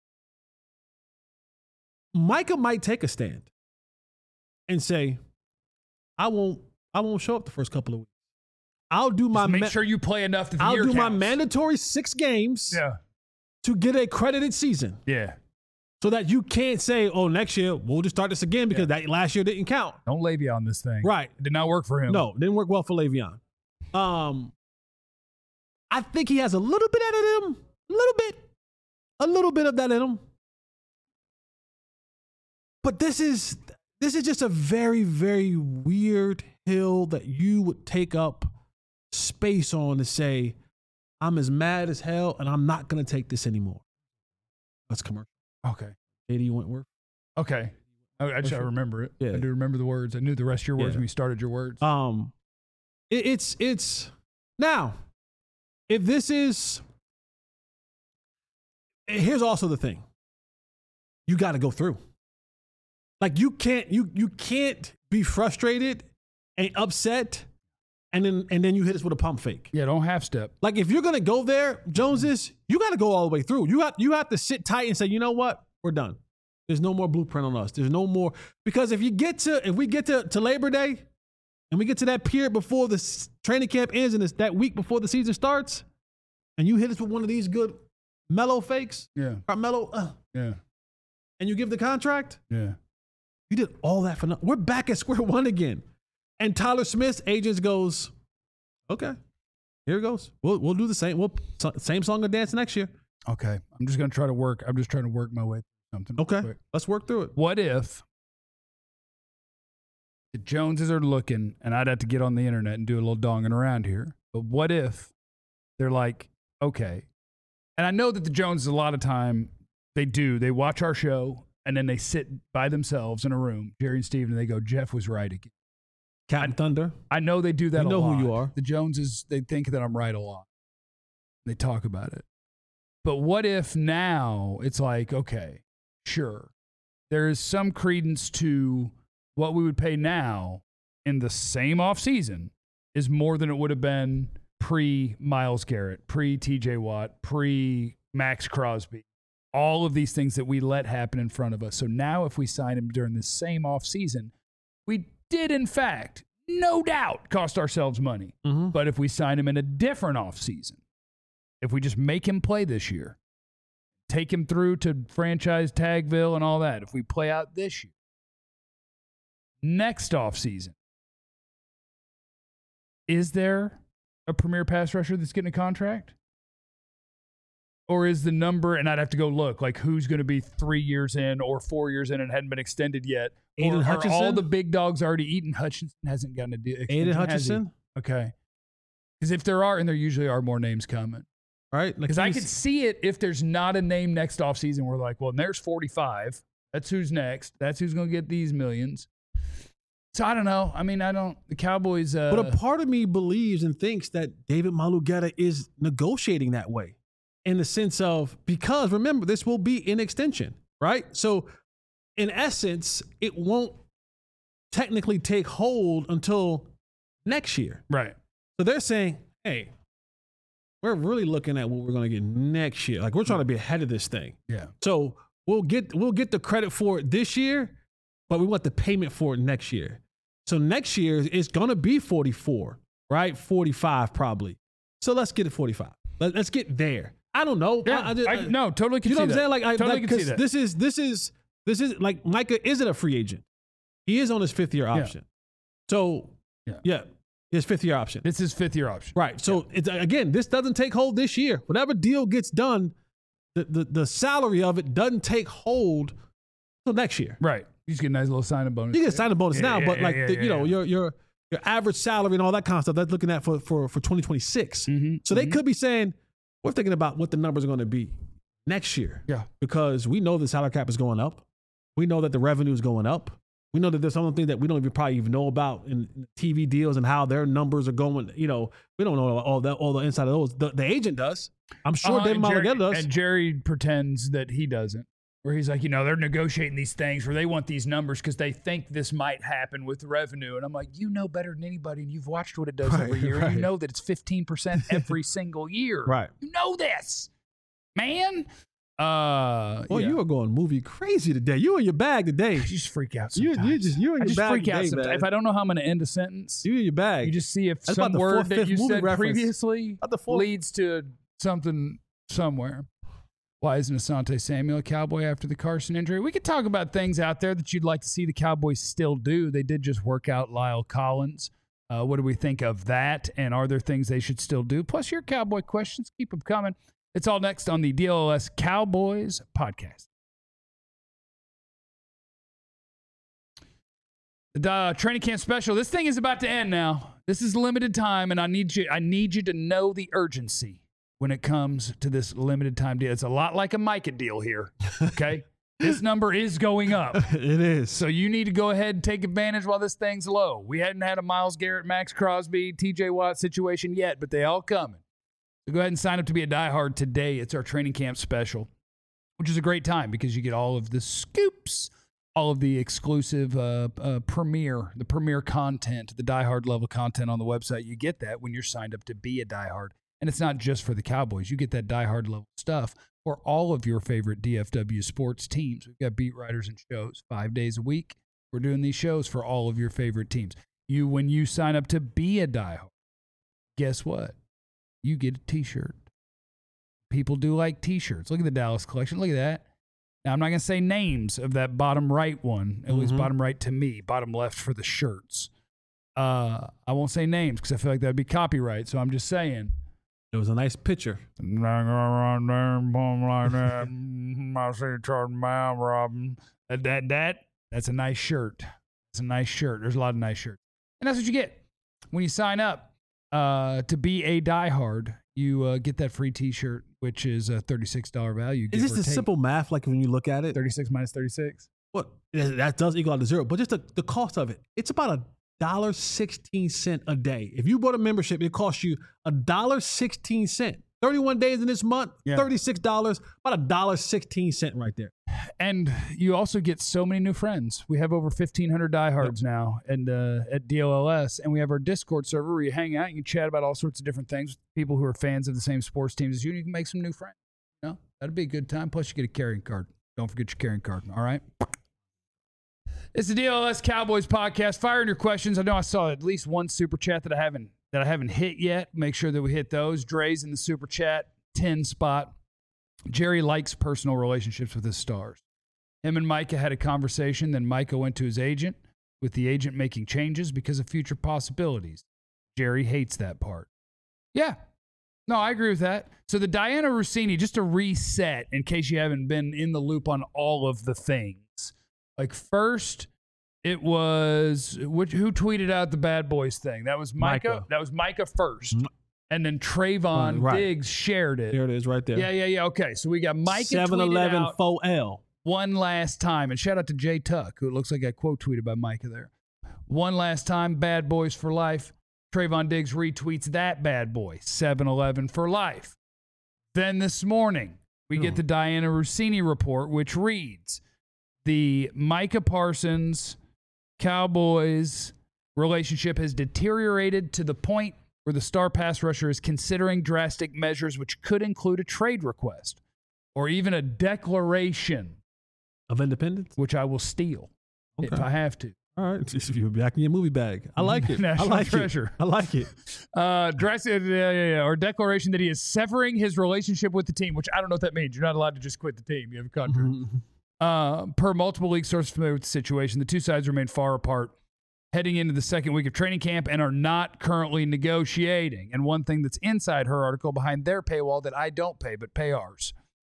Micah might take a stand and say, I won't, I won't show up the first couple of weeks. I'll do my
Just make
ma-
sure you play enough that the
I'll
year
do
counts.
my mandatory six games
Yeah.
to get a credited season.
Yeah.
So that you can't say, oh, next year we'll just start this again because
Yeah.
that last year didn't count.
Don't Le'Veon on this thing.
Right.
It did not work for him.
No, didn't work well for Le'Veon. Um, I think he has a little bit of that in him. A little bit. A little bit of that in him. But this is this is just a very, very weird hill that you would take up space on to say, I'm as mad as hell and I'm not going to take this anymore. That's commercial.
Okay.
Katie Wentworth.
Okay. I, I just I remember it.
Yeah.
I do remember the words. I knew the rest of your words
Yeah.
when you started your words.
Um, it, it's it's now, if this is, here's also the thing. You got to go through. Like you can't you you can't be frustrated and upset, and then and then you hit us with a pump fake.
Yeah, don't half step.
Like if you're gonna go there, Joneses, you got to go all the way through. You have you have to sit tight and say, you know what, we're done. There's no more blueprint on us. There's no more, because if you get to if we get to, to Labor Day, and we get to that period before the s- training camp ends, and it's that week before the season starts, and you hit us with one of these good mellow fakes,
Yeah.
or mellow, uh,
Yeah.
and you give the contract,
Yeah.
you did all that for nothing. We're back at square one again. And Tyler Smith's agents goes, okay, here it goes. We'll we'll do the same. We'll same song and dance next year.
Okay. I'm just gonna try to work. I'm just trying to work my way through something.
Okay,
quick.
let's work through it.
What if the Joneses are looking, and I'd have to get on the internet and do a little donging around here, but what if they're like, okay, and I know that the Joneses a lot of time, they do, they watch our show, and then they sit by themselves in a room, Jerry and Steve, and they go, Jeff was right again.
Captain Thunder.
I know they do that
You
a
know
lot.
who you are.
The Joneses, they think that I'm right a lot. They talk about it. But what if now it's like, okay, sure, there is some credence to what we would pay now in the same offseason is more than it would have been pre-Myles Garrett, pre-T J Watt, pre-Max Crosby. All of these things that we let happen in front of us. So now if we sign him during the same offseason, we did, in fact, no doubt, cost ourselves money.
Mm-hmm.
But if we sign him in a different offseason, if we just make him play this year, take him through to franchise Tagville and all that, if we play out this year, next offseason, is there a premier pass rusher that's getting a contract? Or is the number, and I'd have to go look, like who's going to be three years in or four years in and hadn't been extended yet?
Aiden
or are
Hutchinson?
all the big dogs already eaten? Hutchinson hasn't gotten a deal.
Aiden Hutchinson.
Okay. Because if there are, and there usually are more names coming.
Right?
Because I could see it if there's not a name next offseason. We're like, well, and there's forty-five. That's who's next. That's who's going to get these millions. So I don't know. I mean, I don't. The Cowboys. Uh,
But a part of me believes and thinks that David Malugetta is negotiating that way, in the sense of, because remember, this will be an extension, right? So in essence, it won't technically take hold until next year.
right.
So they're saying, hey, we're really looking at what we're going to get next year. Like, we're trying to be ahead of this thing.
Yeah.
So we'll get we'll get the credit for it this year, but we want the payment for it next year. So next year it's going to be forty-four, right? forty-five probably. So let's get it forty-five. Let, let's get there. I don't know.
Yeah.
I, I just,
I, no, totally can
you know
see
what I'm
that.
saying? Like, I,
totally
like,
can see
'cause
that.
this is this is this is like Micah isn't a free agent. He is on his fifth year option. So
Yeah.
yeah, his fifth year option.
This is fifth year option.
Right. So it's, again, this doesn't take hold this year. Whatever deal gets done, the, the, the salary of it doesn't take hold till next year.
Right. You just get a nice little sign-up bonus.
You get a sign-up bonus
yeah,
now,
yeah,
but
yeah,
like
yeah,
the,
yeah,
you know
yeah.
your your your average salary and all that kind of stuff. That's looking at for for for twenty twenty-six.
Mm-hmm,
so they
mm-hmm.
could be saying we're thinking about what the numbers are going to be next year.
Yeah.
Because we know the salary cap is going up. We know that the revenue is going up. We know that there's some things that we don't even probably even know about in T V deals and how their numbers are going. You know, we don't know all that, all the inside of those. The, the agent does. I'm sure
Uh,
David
and Jerry-
Malagueta does.
And Jerry pretends that he doesn't. Where he's like, you know, they're negotiating these things where they want these numbers because they think this might happen with revenue. And I'm like, you know better than anybody, and you've watched what it does
Right,
every year.
right.
And you know that it's fifteen percent every single year.
Right.
You know this, man. Uh,
Boy,
yeah.
you are going movie crazy today. You in your bag today.
You just freak out
You
sometimes.
you just you in
I
your
just
bag
freak out
today,
sometimes.
man.
If I don't know how I'm going to end a sentence,
You in your bag.
you just see if
That's
some
about the
word
fourth,
that
fifth
you
movie
said
reference.
previously
About the fourth-
leads to something somewhere. Why isn't Asante Samuel a Cowboy after the Carson injury? We could talk about things out there that you'd like to see the Cowboys still do. They did just work out Lyle Collins. Uh, what do we think of that? And are there things they should still do? Plus your Cowboy questions. Keep them coming. It's all next on the D L S Cowboys podcast. The uh, training camp special. This thing is about to end now. This is limited time, and I need you. I need you to know the urgency when it comes to this limited time deal. It's a lot like a Micah deal here. Okay, this number is going up,
it is.
so you need to go ahead and take advantage while this thing's low. We hadn't had a Myles Garrett, Max Crosby, T J Watt situation yet, but they all coming. So go ahead and sign up to be a diehard today. It's our training camp special, which is a great time because you get all of the scoops, all of the exclusive uh, uh, premiere, the premiere content, the diehard level content on the website. You get that when you're signed up to be a diehard. And it's not just for the Cowboys. You get that diehard level stuff for all of your favorite D F W sports teams. We've got beat writers and shows five days a week. We're doing these shows for all of your favorite teams. You, when you sign up to be a diehard, guess what? You get a T-shirt. People do like T-shirts. Look at the Dallas collection. Look at that. Now, I'm not going to say names of that bottom right one, at mm-hmm. least bottom right to me, bottom left for the shirts. Uh, I won't say names because I feel like that would be copyright, so I'm just saying.
It was a nice picture.
That, that, that, that's a nice shirt. It's a nice shirt. There's a lot of nice shirts. And that's what you get when you sign up uh, to be a diehard. You uh, get that free T-shirt, which is a thirty-six dollars value.
Is this the simple math, like when you look at it?
thirty-six minus thirty-six?
What? That does equal out to zero. But just the, the cost of it, it's about a one dollar and sixteen cents a day. If you bought a membership, it costs you one dollar and sixteen cents. thirty-one days in this month, yeah. thirty-six dollars, about one dollar and sixteen cents right there.
And you also get so many new friends. We have over fifteen hundred diehards yep. now and uh, at D L L S, and we have our Discord server where you hang out, you can chat about all sorts of different things with people who are fans of the same sports teams as you, and you can make some new friends. You know, that'd be a good time. Plus, you get a carrying card. Don't forget your carrying card, all right? It's the D L S Cowboys podcast. Fire in your questions. I know I saw at least one super chat that I haven't that I haven't hit yet. Make sure that we hit those. Dre's in the super chat, ten spot. Jerry likes personal relationships with his stars. Him and Micah had a conversation. Then Micah went to his agent, with the agent making changes because of future possibilities. Jerry hates that part. Yeah. No, I agree with that. So the Diana Russini, just to reset in case you haven't been in the loop on all of the things. Like first, it was which, who tweeted out the Bad Boys thing? That was Micah. Micah. That was Micah first. And then Trayvon right. Diggs shared it.
There it is right there.
Yeah, yeah, yeah. Okay, so we got Micah
seven eleven four L.
One last time. And shout out to Jay Tuck, who it looks like got quote tweeted by Micah there. One last time, Bad Boys for life. Trayvon Diggs retweets that bad boy, seven eleven for life. Then this morning, we oh. get the Diana Russini report, which reads, the Micah Parsons Cowboys relationship has deteriorated to the point where the star pass rusher is considering drastic measures which could include a trade request or even a declaration
of independence,
which I will steal okay. if I have to.
All right, if you're back in your movie bag, I like it.
National
I like
treasure.
It. I like it.
Uh, drastic, yeah, yeah, yeah, or declaration that he is severing his relationship with the team, which I don't know what that means. You're not allowed to just quit the team. You have a contract. Mm-hmm. Uh, per multiple league sources familiar with the situation, the two sides remain far apart heading into the second week of training camp and are not currently negotiating. And one thing that's inside her article behind their paywall that I don't pay but pay ours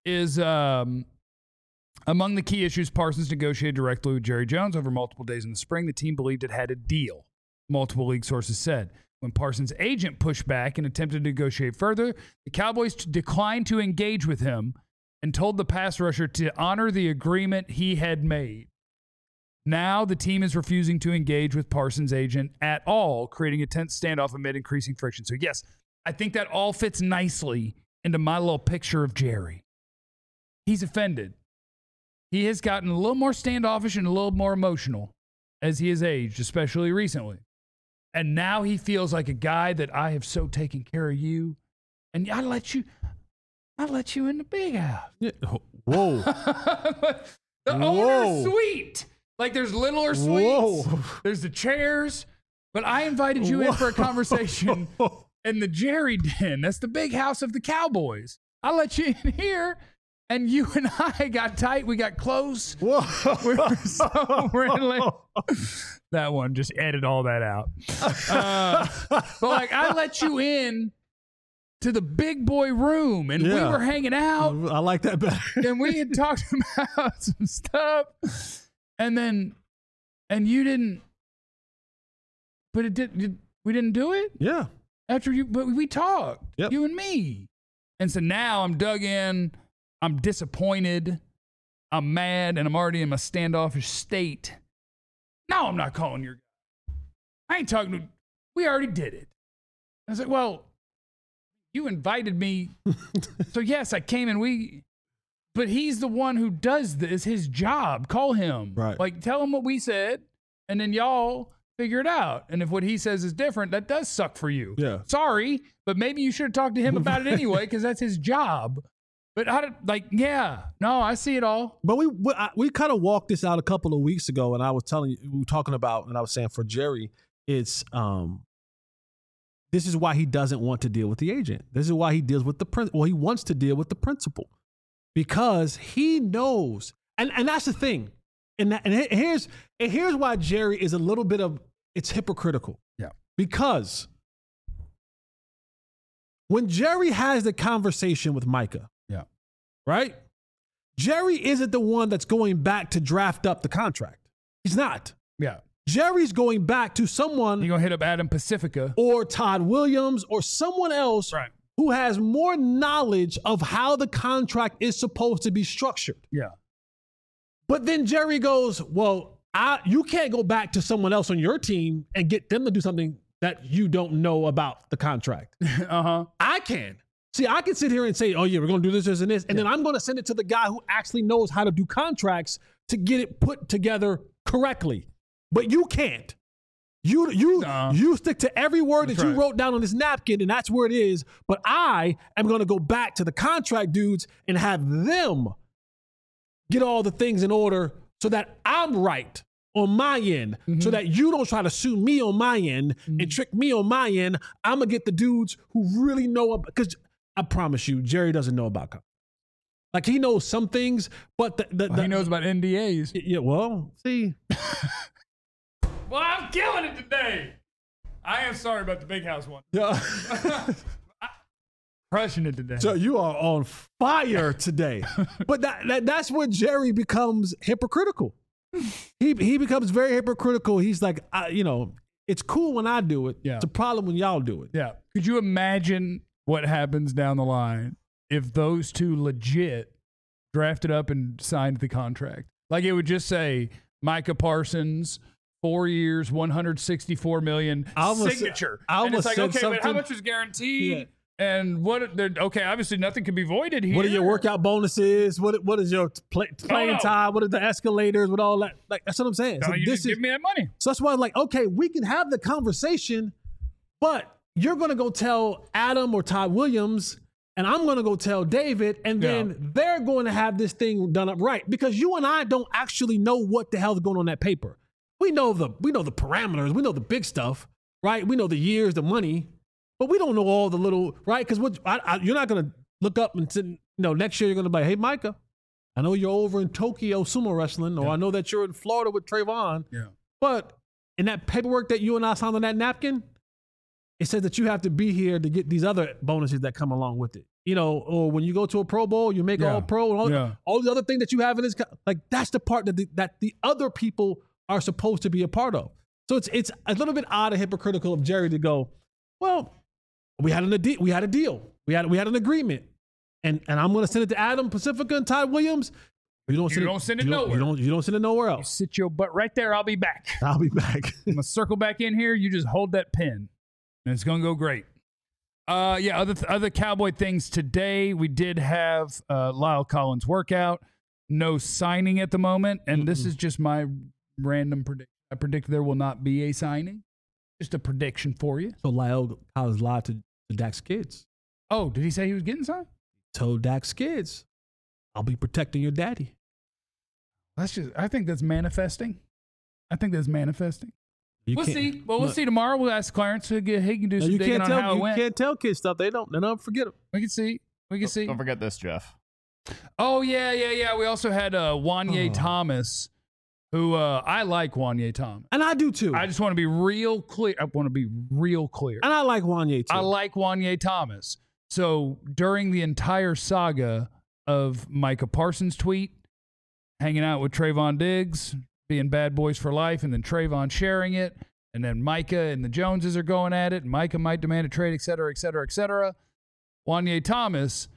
is um, among the key issues Parsons negotiated directly with Jerry Jones over multiple days in the spring. The team believed it had a deal, multiple league sources said. When Parsons' agent pushed back and attempted to negotiate further, the Cowboys t- declined to engage with him and told the pass rusher to honor the agreement he had made. Now the team is refusing to engage with Parsons' agent at all, creating a tense standoff amid increasing friction. So yes, I think that all fits nicely into my little picture of Jerry. He's offended. He has gotten a little more standoffish and a little more emotional as he has aged, especially recently. And now he feels like a guy that I have so taken care of you, and I let you, I let you in the big house.
Yeah. Whoa.
The
Whoa.
owner's suite. Like there's littler suites.
Whoa.
There's the chairs. But I invited you
Whoa.
in for a conversation in the Jerry Den. That's the big house of the Cowboys. I let you in here, and you and I got tight. We got close.
Whoa.
We were so friendly. That one, just edit all that out. Uh, but like, I let you in to the big boy room, and
Yeah.
we were hanging out,
I like that better.
and we had talked about some stuff, and then, and you didn't, but it did. Did we didn't do it
Yeah.
after you? But we talked,
Yep.
you and me, and so now I'm dug in. I'm disappointed. I'm mad, and I'm already in my standoffish state. No, I'm not calling your guy. I ain't talking to, we already did it. I was like, well, you invited me. So yes, I came and we, but he's the one who does this, his job. Call him.
Right.
Like, tell him what we said, and then y'all figure it out. And if what he says is different, that does suck for you.
Yeah.
Sorry, but maybe you should have talked to him about it anyway, because that's his job. But I don't, like, yeah, no, I see it all.
But we we, I, we kind of walked this out a couple of weeks ago, and I was telling you, we were talking about, and I was saying for Jerry, it's um, this is why he doesn't want to deal with the agent. This is why he deals with the prin- well, he wants to deal with the principal, because he knows, and and that's the thing, and that, and here's and here's why Jerry is a little bit of it's hypocritical.
Yeah,
because when Jerry has the conversation with Micah.
Yeah.
Right? Jerry isn't the one that's going back to draft up the contract. He's not.
Yeah.
Jerry's going back to someone
You're going to hit up Adam Pacifica.
or Todd Williams or someone else
Right.
who has more knowledge of how the contract is supposed to be structured.
Yeah.
But then Jerry goes, well, I, you can't go back to someone else on your team and get them to do something that you don't know about the contract.
Uh-huh.
I can. See, I can sit here and say, oh, yeah, we're going to do this, this, and this. And
Yeah.
then I'm going to send it to the guy who actually knows how to do contracts to get it put together correctly. But you can't. You you
Nuh-uh.
you stick to every word
That's
that you
right.
wrote down on this napkin, and that's where it is. But I am going to go back to the contract dudes and have them get all the things in order so that I'm right on my end,
Mm-hmm.
so that you don't try to sue me on my end and trick me on my end. I'm going to get the dudes who really know, because I promise you, Jerry doesn't know about contracts. Like, he knows some things, but the, the,
Well,
the
he knows about N D As.
Yeah, well, see.
Well, I'm killing it today. I am sorry about the big house one.
Yeah.
Crushing it today.
So you are on fire today. But that, that that's where Jerry becomes hypocritical. He he becomes very hypocritical. He's like, I, you know, it's cool when I do it.
Yeah.
It's a problem when y'all do it.
Yeah. Could you imagine what happens down the line if those two legit drafted up and signed the contract? Like, it would just say Micah Parsons, four years, one hundred sixty-four million dollars,
I almost-
signature.
I
and it's
almost
like,
said
okay, but how
something-
much is guaranteed?
Yeah.
And what, they're- okay, obviously nothing can be voided here.
What are your workout bonuses? What what is your play, playing
no.
time? What are the escalators? What all that? Like, that's what I'm saying.
No,
So
you
this
just
is
give me that money.
so that's why I'm like, okay, we can have the conversation, but you're gonna go tell Adam or Todd Williams, and I'm gonna go tell David, and then
Yeah.
they're going to have this thing done up right, because you and I don't actually know what the hell's going on that paper. We know the we know the parameters, we know the big stuff, right? We know the years, the money, but we don't know all the little, right? Because what I, I, you're not gonna look up and sit, you know, next year you're gonna be like, hey, Micah, I know you're over in Tokyo sumo wrestling, or
Yeah.
I know that you're in Florida with Trayvon,
Yeah.
but in that paperwork that you and I signed on that napkin, it says that you have to be here to get these other bonuses that come along with it. you know, or when you go to a Pro Bowl, you make
Yeah.
all pro, and all,
Yeah.
all the other thing that you have in this, like that's the part that the, that the other people are supposed to be a part of. So it's it's a little bit odd and hypocritical of Jerry to go, well, we had an ade- we had a deal, we had we had an agreement, and and I'm going to send it to Adam Pacifica and Todd Williams. You don't
You
send
don't
it,
send it
you don't,
nowhere.
You don't you don't send it nowhere
You
else.
sit your butt right there. I'll be back.
I'll be back.
I'm gonna circle back in here. You just hold that pin, and it's gonna go great. Uh, yeah. Other th- other Cowboy things today. We did have uh, Lyle Collins workout. No signing at the moment, and this is just my random prediction. I predict there will not be a signing. Just a prediction for you.
So Lyle Collins lied to, to Dak's kids.
Oh, did he say he was getting signed?
Told Dak's kids, I'll be protecting your daddy.
That's just. I think that's manifesting. I think that's manifesting.
You
we'll
can't-
see. Well, we'll
look,
see tomorrow. We'll ask Clarence. He can he can do
no,
some
you
digging
can't
on
tell
how it
you
went.
can't tell kids stuff. They don't. They don't forget them.
We can see. We can see.
Don't forget this, Jeff.
Oh yeah, yeah, yeah. We also had uh, Wanye
Oh.
Thomas, who uh, I like Wanye Thomas.
And I do too.
I just want to be real clear. I want to be real clear.
and I like Wanye too.
I like Wanye Thomas. So during the entire saga of Micah Parsons' tweet, hanging out with Trayvon Diggs, being bad boys for life, and then Trayvon sharing it, and then Micah and the Joneses are going at it, and Micah might demand a trade, et cetera, et cetera, et cetera. Wanye Thomas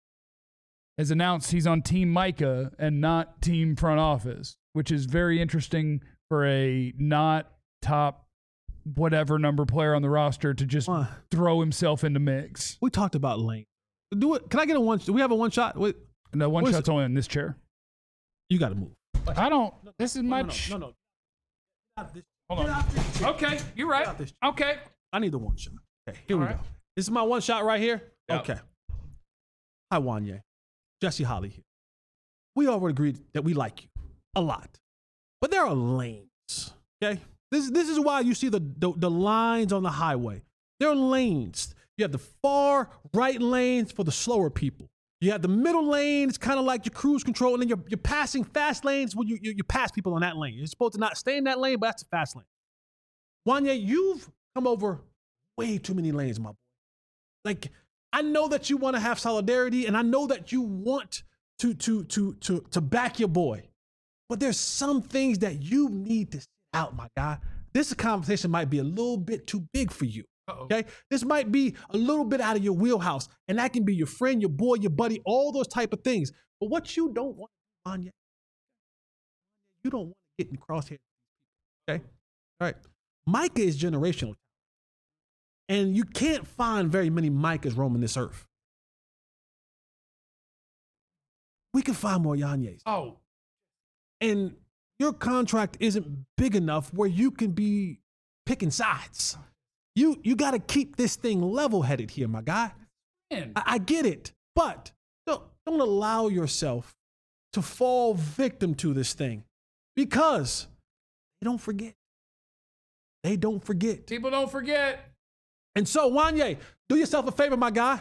has announced he's on Team Micah and not Team Front Office, which is very interesting for a not top whatever number player on the roster to just
Uh,
throw himself in the mix.
we talked about Lane. Do it. Can I get a one? Do we have a one shot? Wait,
No, one
What is
shot's only in this chair.
you got to move.
I don't. This is
No,
my.
no,
ch-
no, no. no.
Hold on. Okay, you're right.
out this-
Okay.
I need the one shot. Okay, here we
All right.
go. This is my one shot right here.
Yep.
Okay. Hi, Wanye. Jesse Holly here. We already agreed that we like you a lot, but there are lanes. Okay, this this is why you see the the, the lines on the highway. There are lanes. You have the far right lanes for the slower people. You have the middle lane. It's kind of like your cruise control, and then you're, you're passing fast lanes when you, you you pass people on that lane. You're supposed to not stay in that lane, but that's a fast lane. Wanye, you've come over way too many lanes, my boy. Like, I know that you want to have solidarity, and I know that you want to to to to to back your boy, but there's some things that you need to sit out, my guy. This conversation might be a little bit too big for you.
Uh-oh.
Okay, this might be a little bit out of your wheelhouse, and that can be your friend, your boy, your buddy, all those type of things. But what you don't want, Wanye, you don't want to get in crosshairs. Okay, all right. Micah is generational, and you can't find very many Micahs roaming this earth. We can find more Yanye's.
Oh,
And your contract isn't big enough where you can be picking sides. You you got to keep this thing level-headed here, my guy.
man.
I, I get it, but don't don't allow yourself to fall victim to this thing, because they don't forget. They don't forget.
People don't forget.
And so, Wanye, do yourself a favor, my guy.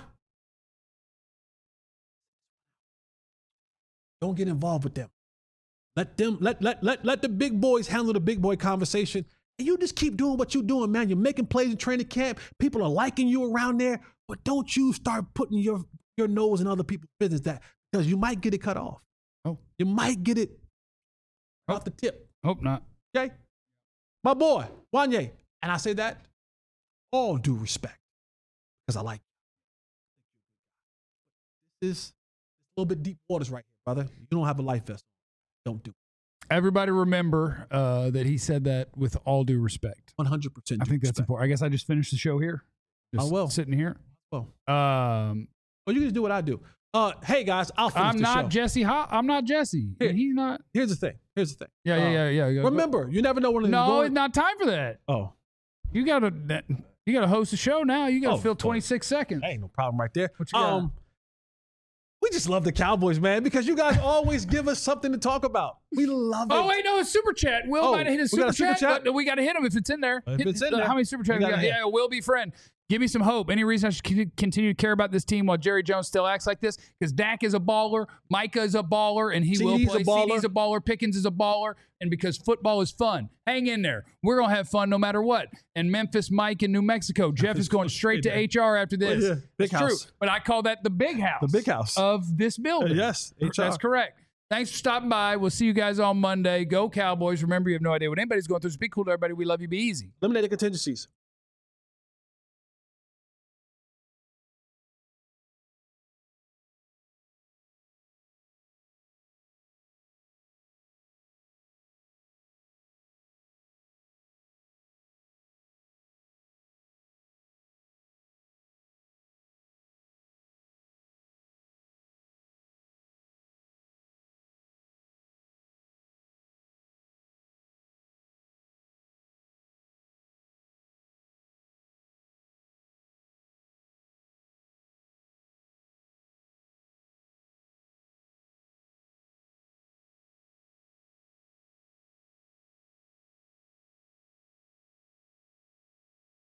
Don't get involved with them. Let them, let, let, let, let the big boys handle the big boy conversation. And you just keep doing what you're doing, man. You're making plays in training camp. People are liking you around there. But don't you start putting your, your nose in other people's business, that because you might get it cut off.
Oh.
You might get it
Oh.
off the tip.
Hope not.
Okay? My boy, Wanye. And I say that all due respect, because I like you. This is a little bit deep waters right here, brother. You don't have a life vest. Don't do it.
Everybody remember uh, that he said that with all due respect.
one hundred percent
I
due
think that's
respect.
important. I guess I just finished the show here. Just
I will.
Sitting here.
Well,
Um,
well, you can just do what I do. Uh, hey, guys, I'll finish
I'm
the
not
show.
Jesse. Ho- I'm not Jesse.
Here.
He's not.
Here's the thing. Here's the thing.
Yeah,
Uh,
yeah, yeah, yeah, yeah.
Remember, you never know when it's
No,
going.
it's not time for that.
Oh,
You gotta. You gotta host a show now. You gotta
Oh,
fill
oh.
twenty-six seconds.
ain't no problem right there.
What you got?
Um, we just love the Cowboys, man, because you guys always give us something to talk about. We love it.
Oh wait, no, it's super chat. Will
Oh,
might have hit his
we got
super,
a super
chat,
chat?
but we got to hit him if it's in there.
If
Hit-
it's in
uh,
there,
how many super chats
we
we
gotta
got?
hit.
Yeah, Will be friend. Give me some hope. Any reason I should c- continue to care about this team while Jerry Jones still acts like this? Because Dak is a baller, Micah is a baller, and he
C
will
D's
play.
a baller.
C D's a baller, Pickens is a baller, and because football is fun, hang in there. We're going to have fun no matter what. And Memphis Mike in New Mexico. Jeff is going straight to H R after this.
Yeah, big
it's
house.
true. But I call that the big house.
The big house.
Of this building.
Uh, yes, H R.
That's correct. Thanks for stopping by. We'll see you guys on Monday. Go Cowboys. Remember, you have no idea what anybody's going through. So be cool to everybody. We love you. Be easy.
Eliminated contingencies.